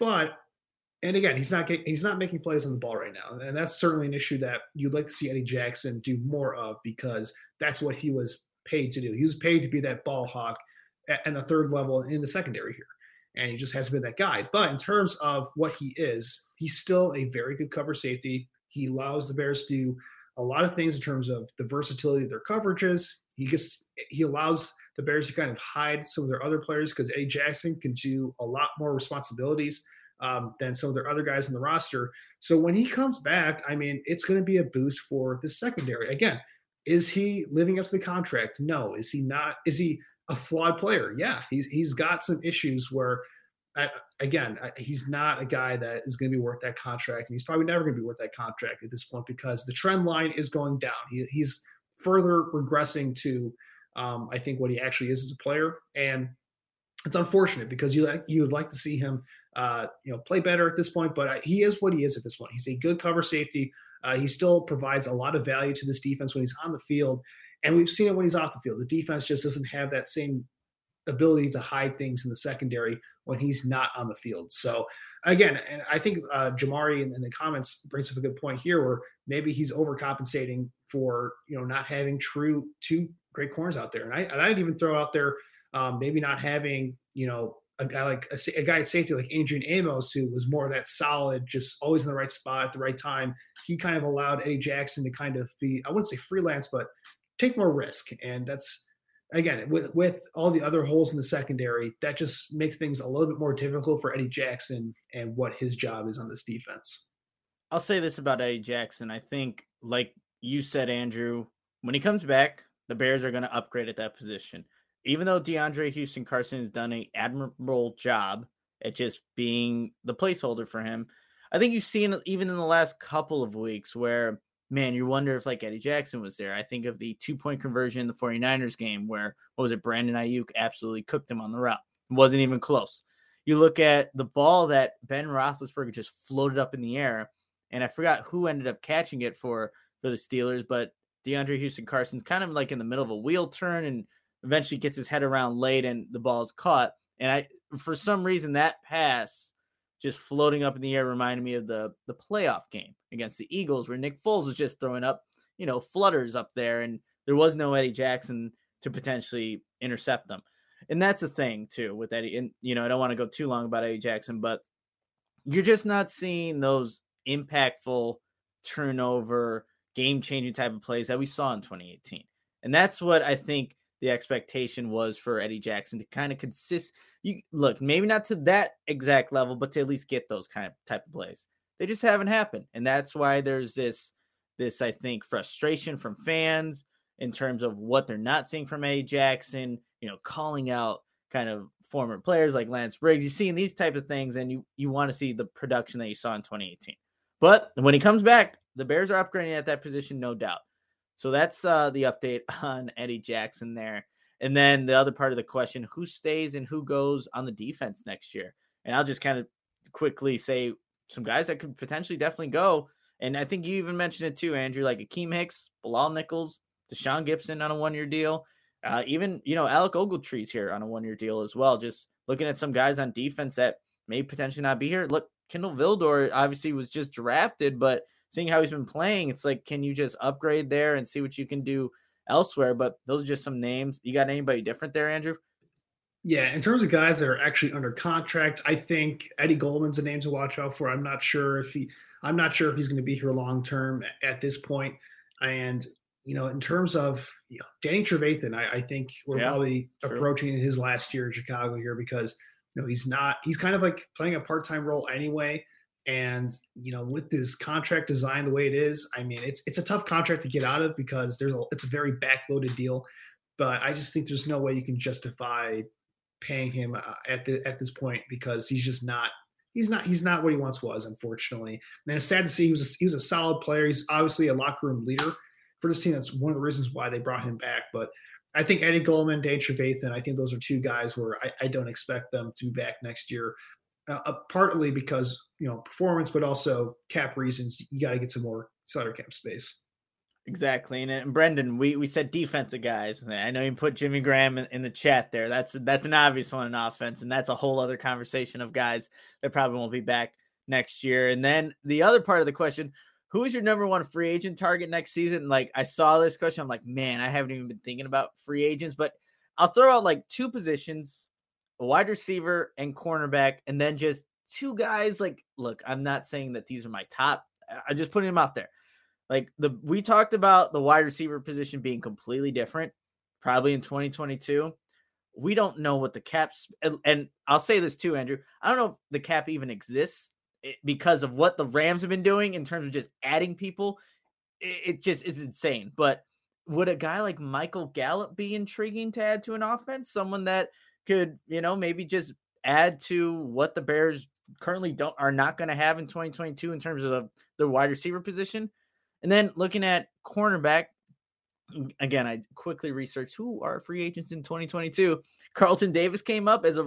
And again, he's not making plays on the ball right now. And that's certainly an issue that you'd like to see Eddie Jackson do more of because that's what he was paid to do. He was paid to be that ball hawk at the third level in the secondary here. And he just hasn't been that guy. But in terms of what he is, he's still a very good cover safety. He allows the Bears to do a lot of things in terms of the versatility of their coverages. He allows the Bears to kind of hide some of their other players because Eddie Jackson can do a lot more responsibilities than some of their other guys in the roster. So when he comes back, I mean, it's going to be a boost for the secondary. Again, is he living up to the contract? No. Is he not? Is he a flawed player? Yeah, he's got some issues where, he's not a guy that is going to be worth that contract, and he's probably never going to be worth that contract at this point because the trend line is going down. He's further regressing to, I think, what he actually is as a player, and it's unfortunate because you would like to see him, play better at this point, but he is what he is at this point. He's a good cover safety. He still provides a lot of value to this defense when he's on the field. And we've seen it when he's off the field. The defense just doesn't have that same ability to hide things in the secondary when he's not on the field. So, again, and I think Jamari in the comments brings up a good point here where maybe he's overcompensating for, not having two great corners out there. And I'd even throw out there maybe not having, a guy at safety like Adrian Amos, who was more of that solid, just always in the right spot at the right time. He kind of allowed Eddie Jackson to kind of be, I wouldn't say freelance, but take more risk. And that's, again, with all the other holes in the secondary, that just makes things a little bit more difficult for Eddie Jackson and what his job is on this defense. I'll say this about Eddie Jackson. I think, like you said, Andrew, when he comes back, the Bears are going to upgrade at that position. Even though DeAndre Houston Carson has done an admirable job at just being the placeholder for him, I think you've seen even in the last couple of weeks where, man, you wonder if like Eddie Jackson was there. I think of the 2-point conversion in the 49ers game where, Brandon Ayuk absolutely cooked him on the route. It wasn't even close. you look at the ball that Ben Roethlisberger just floated up in the air, and I forgot who ended up catching it for the Steelers, but DeAndre Houston-Carson's kind of like in the middle of a wheel turn and eventually gets his head around late and the ball is caught. And for some reason, that pass just floating up in the air reminded me of the playoff game against the Eagles where Nick Foles was just throwing up, flutters up there, and there was no Eddie Jackson to potentially intercept them. And that's the thing, too, with Eddie. And, I don't want to go too long about Eddie Jackson, but you're just not seeing those impactful turnover, game-changing type of plays that we saw in 2018. And that's what I think the expectation was for Eddie Jackson to kind of consist. Look, maybe not to that exact level, but to at least get those type of plays. They just haven't happened. And that's why there's this, I think, frustration from fans in terms of what they're not seeing from Eddie Jackson, calling out kind of former players like Lance Briggs. You're seeing these type of things, and you want to see the production that you saw in 2018. But when he comes back, the Bears are upgrading at that position, no doubt. So that's the update on Eddie Jackson there. And then the other part of the question, who stays and who goes on the defense next year? And I'll just kind of quickly say some guys that could potentially definitely go. And I think you even mentioned it too, Andrew, like Akeem Hicks, Bilal Nichols, Deshaun Gibson on a one-year deal. Even, Alec Ogletree's here on a one-year deal as well. Just looking at some guys on defense that may potentially not be here. Look, Kindle Vildor obviously was just drafted, but seeing how he's been playing, it's like, can you just upgrade there and see what you can do elsewhere? But those are just some names. You got anybody different there, Andrew? Yeah, in terms of guys that are actually under contract, I think Eddie Goldman's a name to watch out for. I'm not sure if he's going to be here long term at this point. And in terms of Danny Trevathan, I think we're probably approaching his last year in Chicago here because he's kind of like playing a part-time role anyway. And, with this contract design the way it is, I mean, it's a tough contract to get out of because it's a very backloaded deal. But I just think there's no way you can justify paying him at this point because he's not what he once was, unfortunately. And it's sad to see he was a solid player. He's obviously a locker room leader for this team. That's one of the reasons why they brought him back. But I think Eddie Goldman, Danny Trevathan, I think those are two guys where I don't expect them to be back next year. Partly because, performance, but also cap reasons. You got to get some more salary cap space. Exactly. And Brendan, we said defensive guys. I know you put Jimmy Graham in the chat there. That's an obvious one in offense. And that's a whole other conversation of guys that probably won't be back next year. And then the other part of the question, who is your number one free agent target next season? Like, I saw this question. I'm like, man, I haven't even been thinking about free agents, but I'll throw out like two positions, a wide receiver and cornerback, and then just two guys. Like, look, I'm not saying that these are my top. I just putting them out there. Like we talked about the wide receiver position being completely different, probably in 2022. We don't know what the caps, and I'll say this too, Andrew. I don't know if the cap even exists because of what the Rams have been doing in terms of just adding people. It just is insane. But would a guy like Michael Gallup be intriguing to add to an offense? Someone that could, maybe just add to what the Bears currently are not going to have in 2022 in terms of the wide receiver position. And then looking at cornerback, again, I quickly researched who are free agents in 2022. Carlton Davis came up as a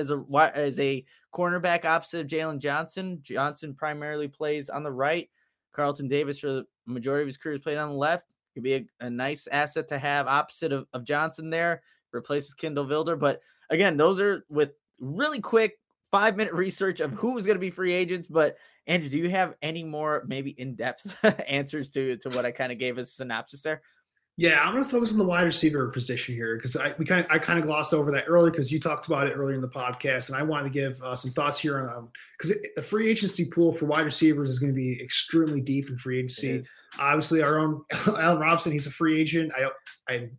cornerback opposite of Jalen Johnson. Johnson primarily plays on the right. Carlton Davis, for the majority of his career, has played on the left. Could be a nice asset to have opposite of Johnson there. Replaces Kindle Vildor. But again, those are with really quick 5-minute research of who was going to be free agents. But Andrew, do you have any more maybe in-depth answers to what I kind of gave as a synopsis there? Yeah, I'm going to focus on the wide receiver position here because I kind of glossed over that earlier because you talked about it earlier in the podcast, and I wanted to give some thoughts here on because the free agency pool for wide receivers is going to be extremely deep in free agency. Obviously, our own Allen Robinson, he's a free agent. I'm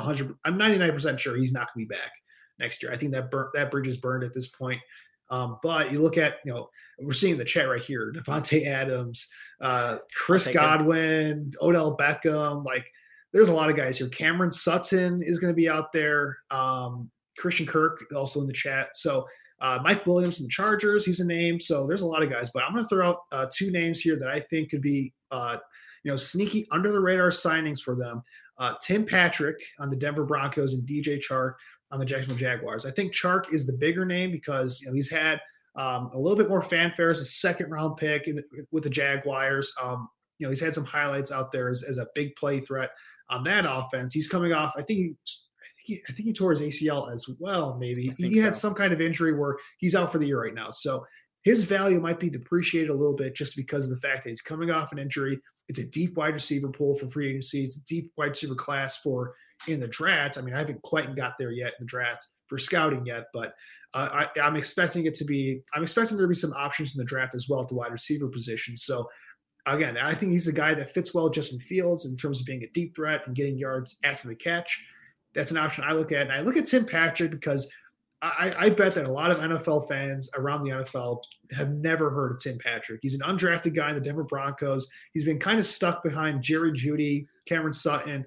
99% sure he's not going to be back next year. I think that bridge is burned at this point. But you look at, we're seeing the chat right here, Devontae Adams, Chris Godwin, Odell Beckham, like there's a lot of guys here. Cameron Sutton is going to be out there. Christian Kirk also in the chat. So Mike Williams from the Chargers, he's a name. So there's a lot of guys, but I'm going to throw out two names here that I think could be, sneaky under the radar signings for them. Tim Patrick on the Denver Broncos and DJ Chark on the Jacksonville Jaguars. I think Chark is the bigger name because he's had a little bit more fanfare as a second-round pick with the Jaguars. He's had some highlights out there as a big play threat on that offense. He's coming off, I think he tore his ACL as well, maybe. He had some kind of injury where he's out for the year right now. So his value might be depreciated a little bit just because of the fact that he's coming off an injury. It's a deep wide receiver pool for free agency. It's a deep wide receiver class in the draft. I mean, I haven't quite got there yet in the draft for scouting yet, but I'm expecting there to be some options in the draft as well at the wide receiver position. So again, I think he's a guy that fits well with Justin Fields in terms of being a deep threat and getting yards after the catch. That's an option I look at. And I look at Tim Patrick because I bet that a lot of NFL fans around the NFL have never heard of Tim Patrick. He's an undrafted guy in the Denver Broncos. He's been kind of stuck behind Jerry Jeudy, Cameron Sutton,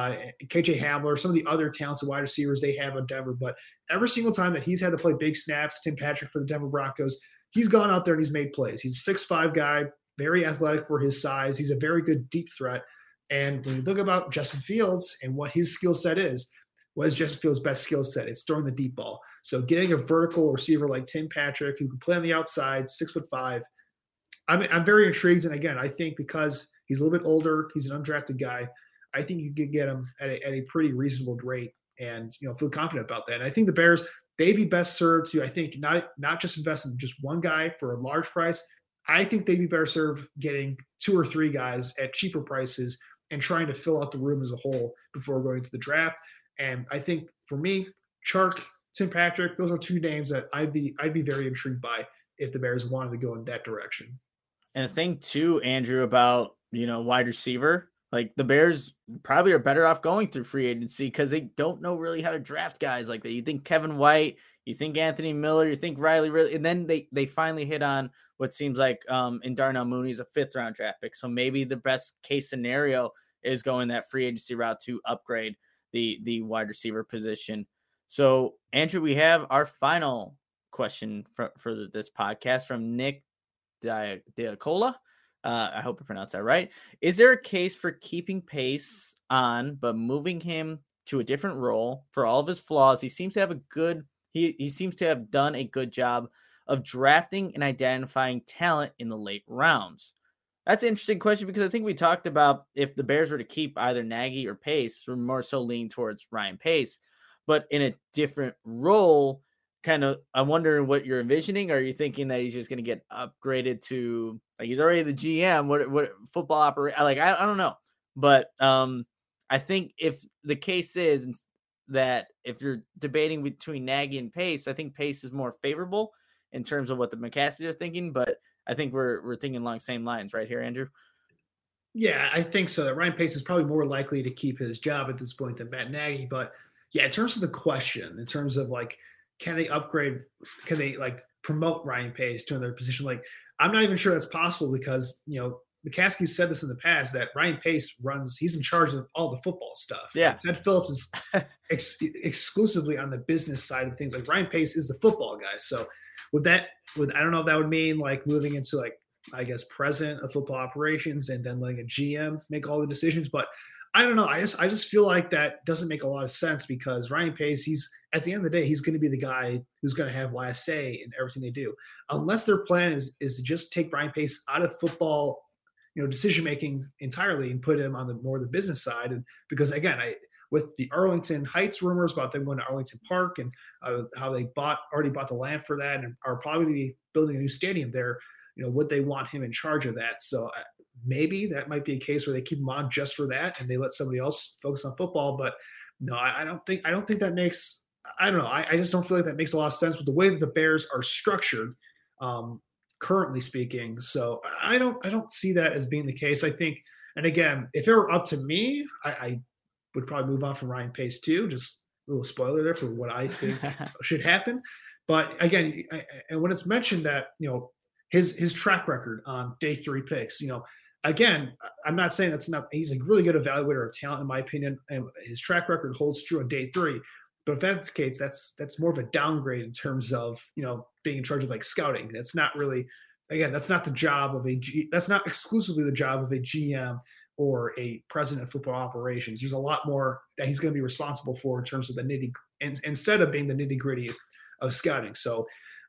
KJ Hamler, some of the other talented wide receivers they have in Denver. But every single time that he's had to play big snaps, Tim Patrick for the Denver Broncos, he's gone out there and he's made plays. He's a 6'5" guy, very athletic for his size. He's a very good deep threat. And when you look about Justin Fields and what his skill set is, what is Justin Fields' best skill set? It's throwing the deep ball. So getting a vertical receiver like Tim Patrick who can play on the outside, 6'5", I'm very intrigued. And again, I think because he's a little bit older, he's an undrafted guy, I think you could get him at a pretty reasonable rate and feel confident about that. And I think the Bears, they'd be best served to, I think, not just invest in just one guy for a large price. I think they'd be better served getting 2 or 3 guys at cheaper prices and trying to fill out the room as a whole before going to the draft. And I think for me, Chark, Tim Patrick, those are 2 names that I'd be very intrigued by if the Bears wanted to go in that direction. And the thing too, Andrew, about wide receiver, like the Bears probably are better off going through free agency because they don't know really how to draft guys like that. You think Kevin White, you think Anthony Miller, you think Riley Ridley, and then they finally hit on what seems like in Darnell Mooney is a 5th-round draft pick. So maybe the best case scenario is going that free agency route to upgrade the wide receiver position. So, Andrew, we have our final question for this podcast from Nick Diacola. I hope I pronounced that right. Is there a case for keeping Pace on, but moving him to a different role for all of his flaws? He seems to have he seems to have done a good job of drafting and identifying talent in the late rounds. That's an interesting question because I think we talked about if the Bears were to keep either Nagy or Pace, we're more so leaning towards Ryan Pace, but in a different role. Kind of, I'm wondering what you're envisioning. Are you thinking that he's just going to get upgraded to like he's already the GM? What football operator? Like I don't know, but I think if the case is that if you're debating between Nagy and Pace, I think Pace is more favorable in terms of what the McCaskies are thinking. But I think we're thinking along the same lines, right here, Andrew. Yeah, I think so. That Ryan Pace is probably more likely to keep his job at this point than Matt Nagy. But yeah, in terms of the question, in terms of like, can they upgrade? Can they like promote Ryan Pace to another position? Like, I'm not even sure that's possible because, McCaskey said this in the past that Ryan Pace he's in charge of all the football stuff. Yeah. Ted Phillips is exclusively on the business side of things. Like Ryan Pace is the football guy. So I don't know if that would mean like moving into like, I guess, president of football operations and then letting a GM make all the decisions. But I don't know. I just feel like that doesn't make a lot of sense because Ryan Pace, he's at the end of the day, he's going to be the guy who's going to have last say in everything they do. Unless their plan is to just take Ryan Pace out of football, decision making entirely and put him on the business side. And because again, with the Arlington Heights rumors about them going to Arlington Park and how they already bought the land for that and are probably building a new stadium there, would they want him in charge of that? So maybe that might be a case where they keep him on just for that and they let somebody else focus on football. But no, I don't think that makes, I don't know. I just don't feel like that makes a lot of sense with the way that the Bears are structured, currently speaking. So I don't see that as being the case. I think, and again, if it were up to me, I would probably move on from Ryan Pace too. Just a little spoiler there for what I think should happen. But again, and when it's mentioned that, his track record on day 3 picks, again, I'm not saying he's a really good evaluator of talent in my opinion. And his track record holds true on day 3. But if that's the case, that's more of a downgrade in terms of, being in charge of like scouting. That's not really, again, that's not exclusively the job of a GM or a president of football operations. There's a lot more that he's going to be responsible for in terms of the instead of being the nitty gritty of scouting. So,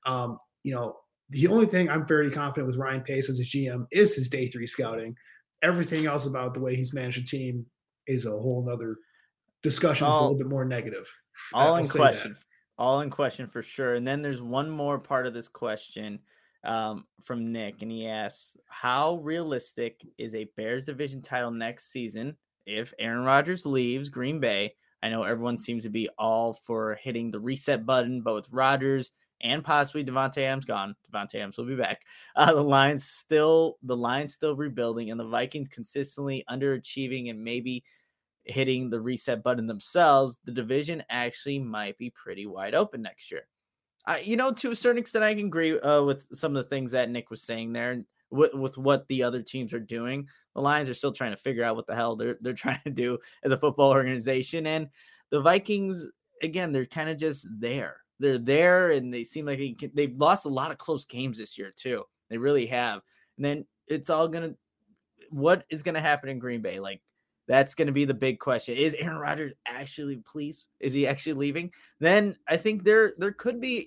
the only thing I'm very confident with Ryan Pace as a GM is his day 3 scouting. Everything else about the way he's managed a team is a whole nother discussion. It's a little bit more negative. All in question for sure. And then there's one more part of this question from Nick, and he asks, how realistic is a Bears division title next season if Aaron Rodgers leaves Green Bay? I know everyone seems to be all for hitting the reset button, but with Rodgers and possibly Davante Adams gone, Davante Adams will be back. The line's still rebuilding, and the Vikings consistently underachieving and maybe hitting the reset button themselves. The division actually might be pretty wide open next year. To a certain extent, I can agree with some of the things that Nick was saying there. With what the other teams are doing, the Lions are still trying to figure out what the hell they're trying to do as a football organization, and the Vikings, again, they're kind of just there. They're there, and they seem like they've lost a lot of close games this year too. They really have. And then it's all what is gonna happen in Green Bay? Like, that's gonna be the big question. Is Aaron Rodgers is he actually leaving? Then I think there could be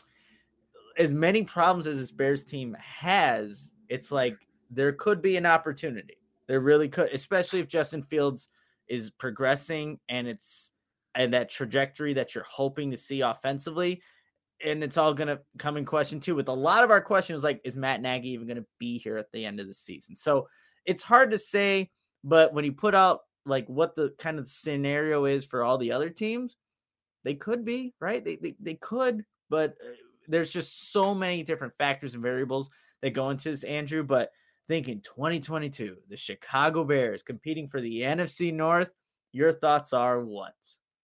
as many problems as this Bears team has. It's like there could be an opportunity. There really could, especially if Justin Fields is progressing and that trajectory that you're hoping to see offensively. And it's all going to come in question too. With a lot of our questions, like, is Matt Nagy even going to be here at the end of the season? So it's hard to say, but when you put out like what the kind of scenario is for all the other teams, they could be, right? They could, but there's just so many different factors and variables that go into this, Andrew. But thinking 2022, the Chicago Bears competing for the NFC North, your thoughts are what?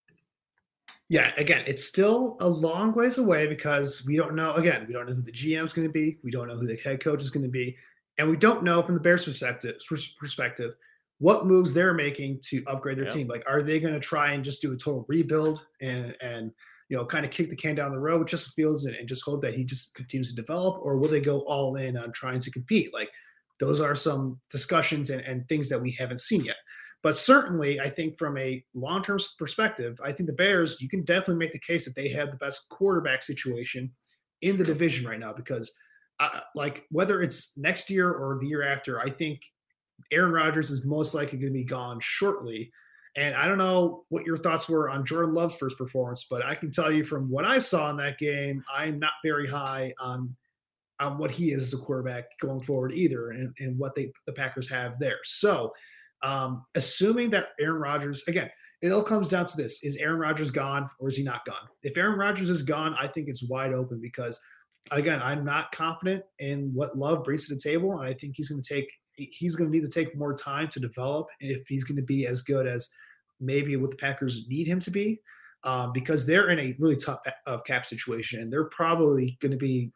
Yeah, again, it's still a long ways away because we don't know. Again, we don't know who the GM is going to be. We don't know who the head coach is going to be. And we don't know from the Bears' perspective what moves they're making to upgrade their team. Like, are they going to try and just do a total rebuild and kind of kick the can down the road with Justin Fields and just hope that he just continues to develop? Or will they go all in on trying to compete? Like, those are some discussions and things that we haven't seen yet. But certainly, I think from a long-term perspective, I think the Bears, you can definitely make the case that they have the best quarterback situation in the division right now because, whether it's next year or the year after, I think Aaron Rodgers is most likely going to be gone shortly. And I don't know what your thoughts were on Jordan Love's first performance, but I can tell you from what I saw in that game, I'm not very high on what he is as a quarterback going forward either and what the Packers have there. So, assuming that Aaron Rodgers, again, it all comes down to this: is Aaron Rodgers gone or is he not gone? If Aaron Rodgers is gone, I think it's wide open because, again, I'm not confident in what Love brings to the table, and I think he's going to need to take more time to develop if he's going to be as good as maybe what the Packers need him to be, because they're in a really tough cap situation, and they're probably going to be,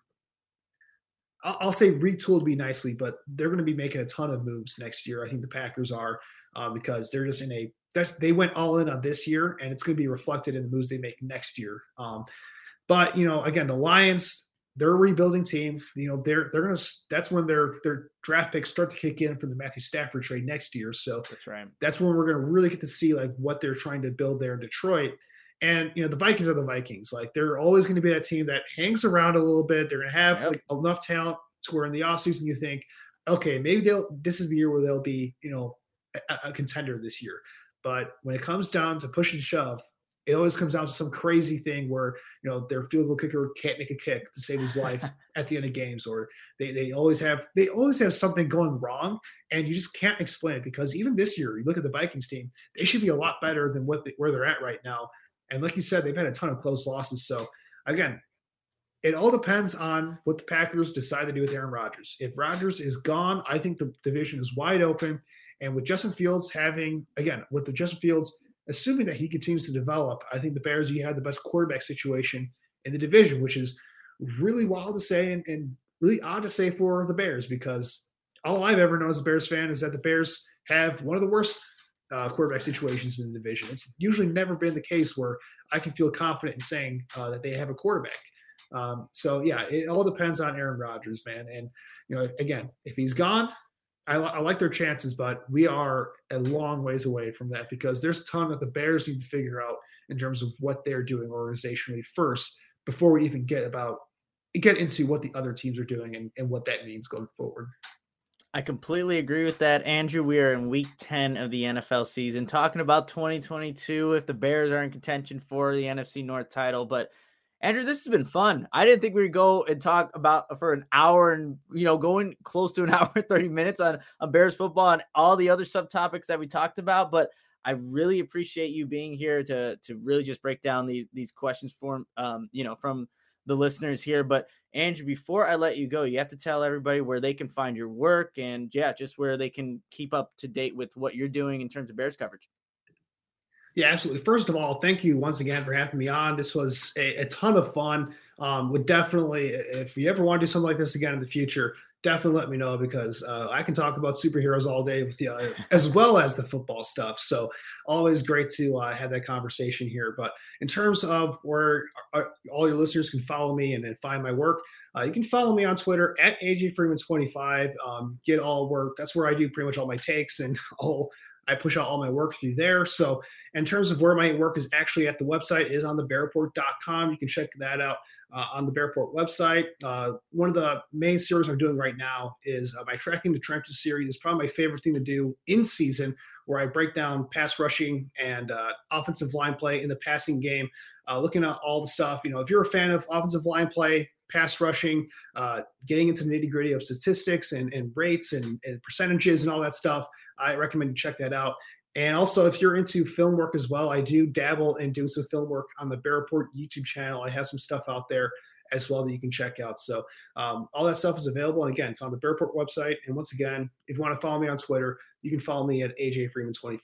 I'll say retooled be nicely, but they're going to be making a ton of moves next year. I think the Packers are because they're just they went all in on this year, and it's going to be reflected in the moves they make next year. But again, the Lions, they're a rebuilding team. They're going to, that's when their draft picks start to kick in from the Matthew Stafford trade next year. So that's right. That's when we're going to really get to see like what they're trying to build there in Detroit. And, the Vikings are the Vikings. Like, they're always going to be that team that hangs around a little bit. They're going to have enough talent to where in the offseason you think, okay, maybe this is the year where they'll be, a contender this year. But when it comes down to push and shove, it always comes down to some crazy thing where, their field goal kicker can't make a kick to save his life at the end of games, or they always have something going wrong, and you just can't explain it because even this year, you look at the Vikings team, they should be a lot better than where they're at right now. And like you said, they've had a ton of close losses. So, again, it all depends on what the Packers decide to do with Aaron Rodgers. If Rodgers is gone, I think the division is wide open. And with Justin Fields assuming that he continues to develop, I think the Bears, you have the best quarterback situation in the division, which is really wild to say and really odd to say for the Bears because all I've ever known as a Bears fan is that the Bears have one of the worst quarterback situations in the division. It's usually never been the case where I can feel confident in saying that they have a quarterback. So yeah, it all depends on Aaron Rodgers, man. And again, if he's gone, I like their chances, but we are a long ways away from that because there's a ton that the Bears need to figure out in terms of what they're doing organizationally first before we even get into what the other teams are doing and what that means going forward. I completely agree with that, Andrew. We are in week 10 of the NFL season, talking about 2022 if the Bears are in contention for the NFC North title. But Andrew, this has been fun. I didn't think we'd go and talk about for an hour and, going close to an hour and 30 minutes on Bears football and all the other subtopics that we talked about. But I really appreciate you being here to really just break down these questions from the listeners here. But Andrew, before I let you go, you have to tell everybody where they can find your work and just where they can keep up to date with what you're doing in terms of Bears coverage. Yeah, absolutely. First of all, thank you once again for having me on. This was a ton of fun. Would definitely, if you ever want to do something like this again in the future, definitely let me know because I can talk about superheroes all day with you, as well as the football stuff. So always great to have that conversation here. But in terms of where all your listeners can follow me and find my work, you can follow me on Twitter at AJFreeman25. Get all work. That's where I do pretty much all my takes and I push out all my work through there. So in terms of where my work is actually at, the website is on thebearreport.com. You can check that out on the Bear Report website. One of the main series I'm doing right now is my Tracking the Trenches series. It's probably my favorite thing to do in season, where I break down pass rushing and offensive line play in the passing game, looking at all the stuff. If you're a fan of offensive line play, pass rushing, getting into the nitty-gritty of statistics and rates and percentages and all that stuff, I recommend you check that out. And also, if you're into film work as well, I do dabble in doing some film work on the Bear Report YouTube channel. I have some stuff out there as well that you can check out. So all that stuff is available. And again, it's on the Bear Report website. And once again, if you want to follow me on Twitter, you can follow me at AJFreeman25.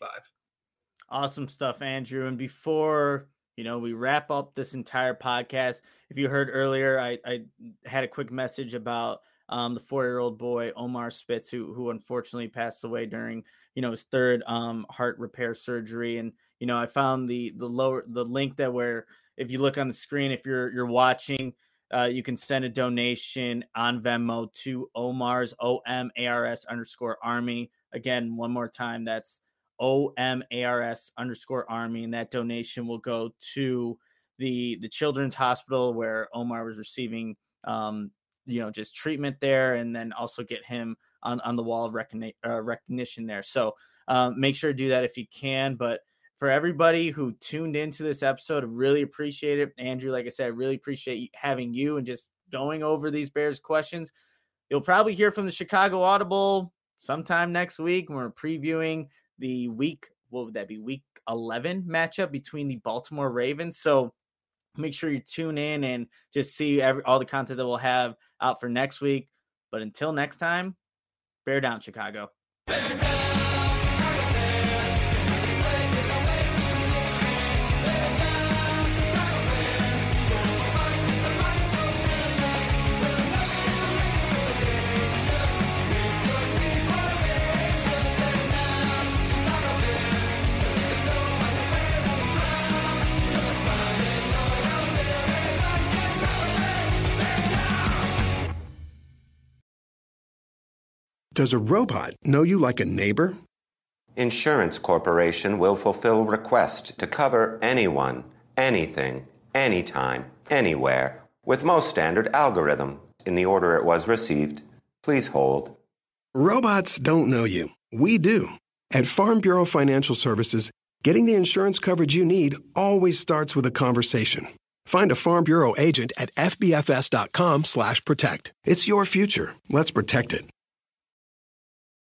Awesome stuff, Andrew. And before we wrap up this entire podcast, if you heard earlier, I had a quick message about the 4-year-old boy, Omar Spitz, who unfortunately passed away during, his third heart repair surgery. And, I found the link that where, if you look on the screen, if you're watching, you can send a donation on Venmo to Omar's OMARS_Army. Again, one more time, that's OMARS_Army. And that donation will go to the Children's Hospital where Omar was receiving, just treatment there, and then also get him on the wall of recognition there. So make sure to do that if you can. But for everybody who tuned into this episode, I really appreciate it. Andrew, like I said, I really appreciate having you and just going over these Bears questions. You'll probably hear from the Chicago Audible sometime next week when we're previewing the week 11 matchup between the Baltimore Ravens. So make sure you tune in and just see all the content that we'll have out for next week. But until next time, bear down, Chicago. Bear down. Does a robot know you like a neighbor? Insurance Corporation will fulfill request to cover anyone, anything, anytime, anywhere, with most standard algorithm in the order it was received. Please hold. Robots don't know you. We do. At Farm Bureau Financial Services, getting the insurance coverage you need always starts with a conversation. Find a Farm Bureau agent at fbfs.com/protect. It's your future. Let's protect it.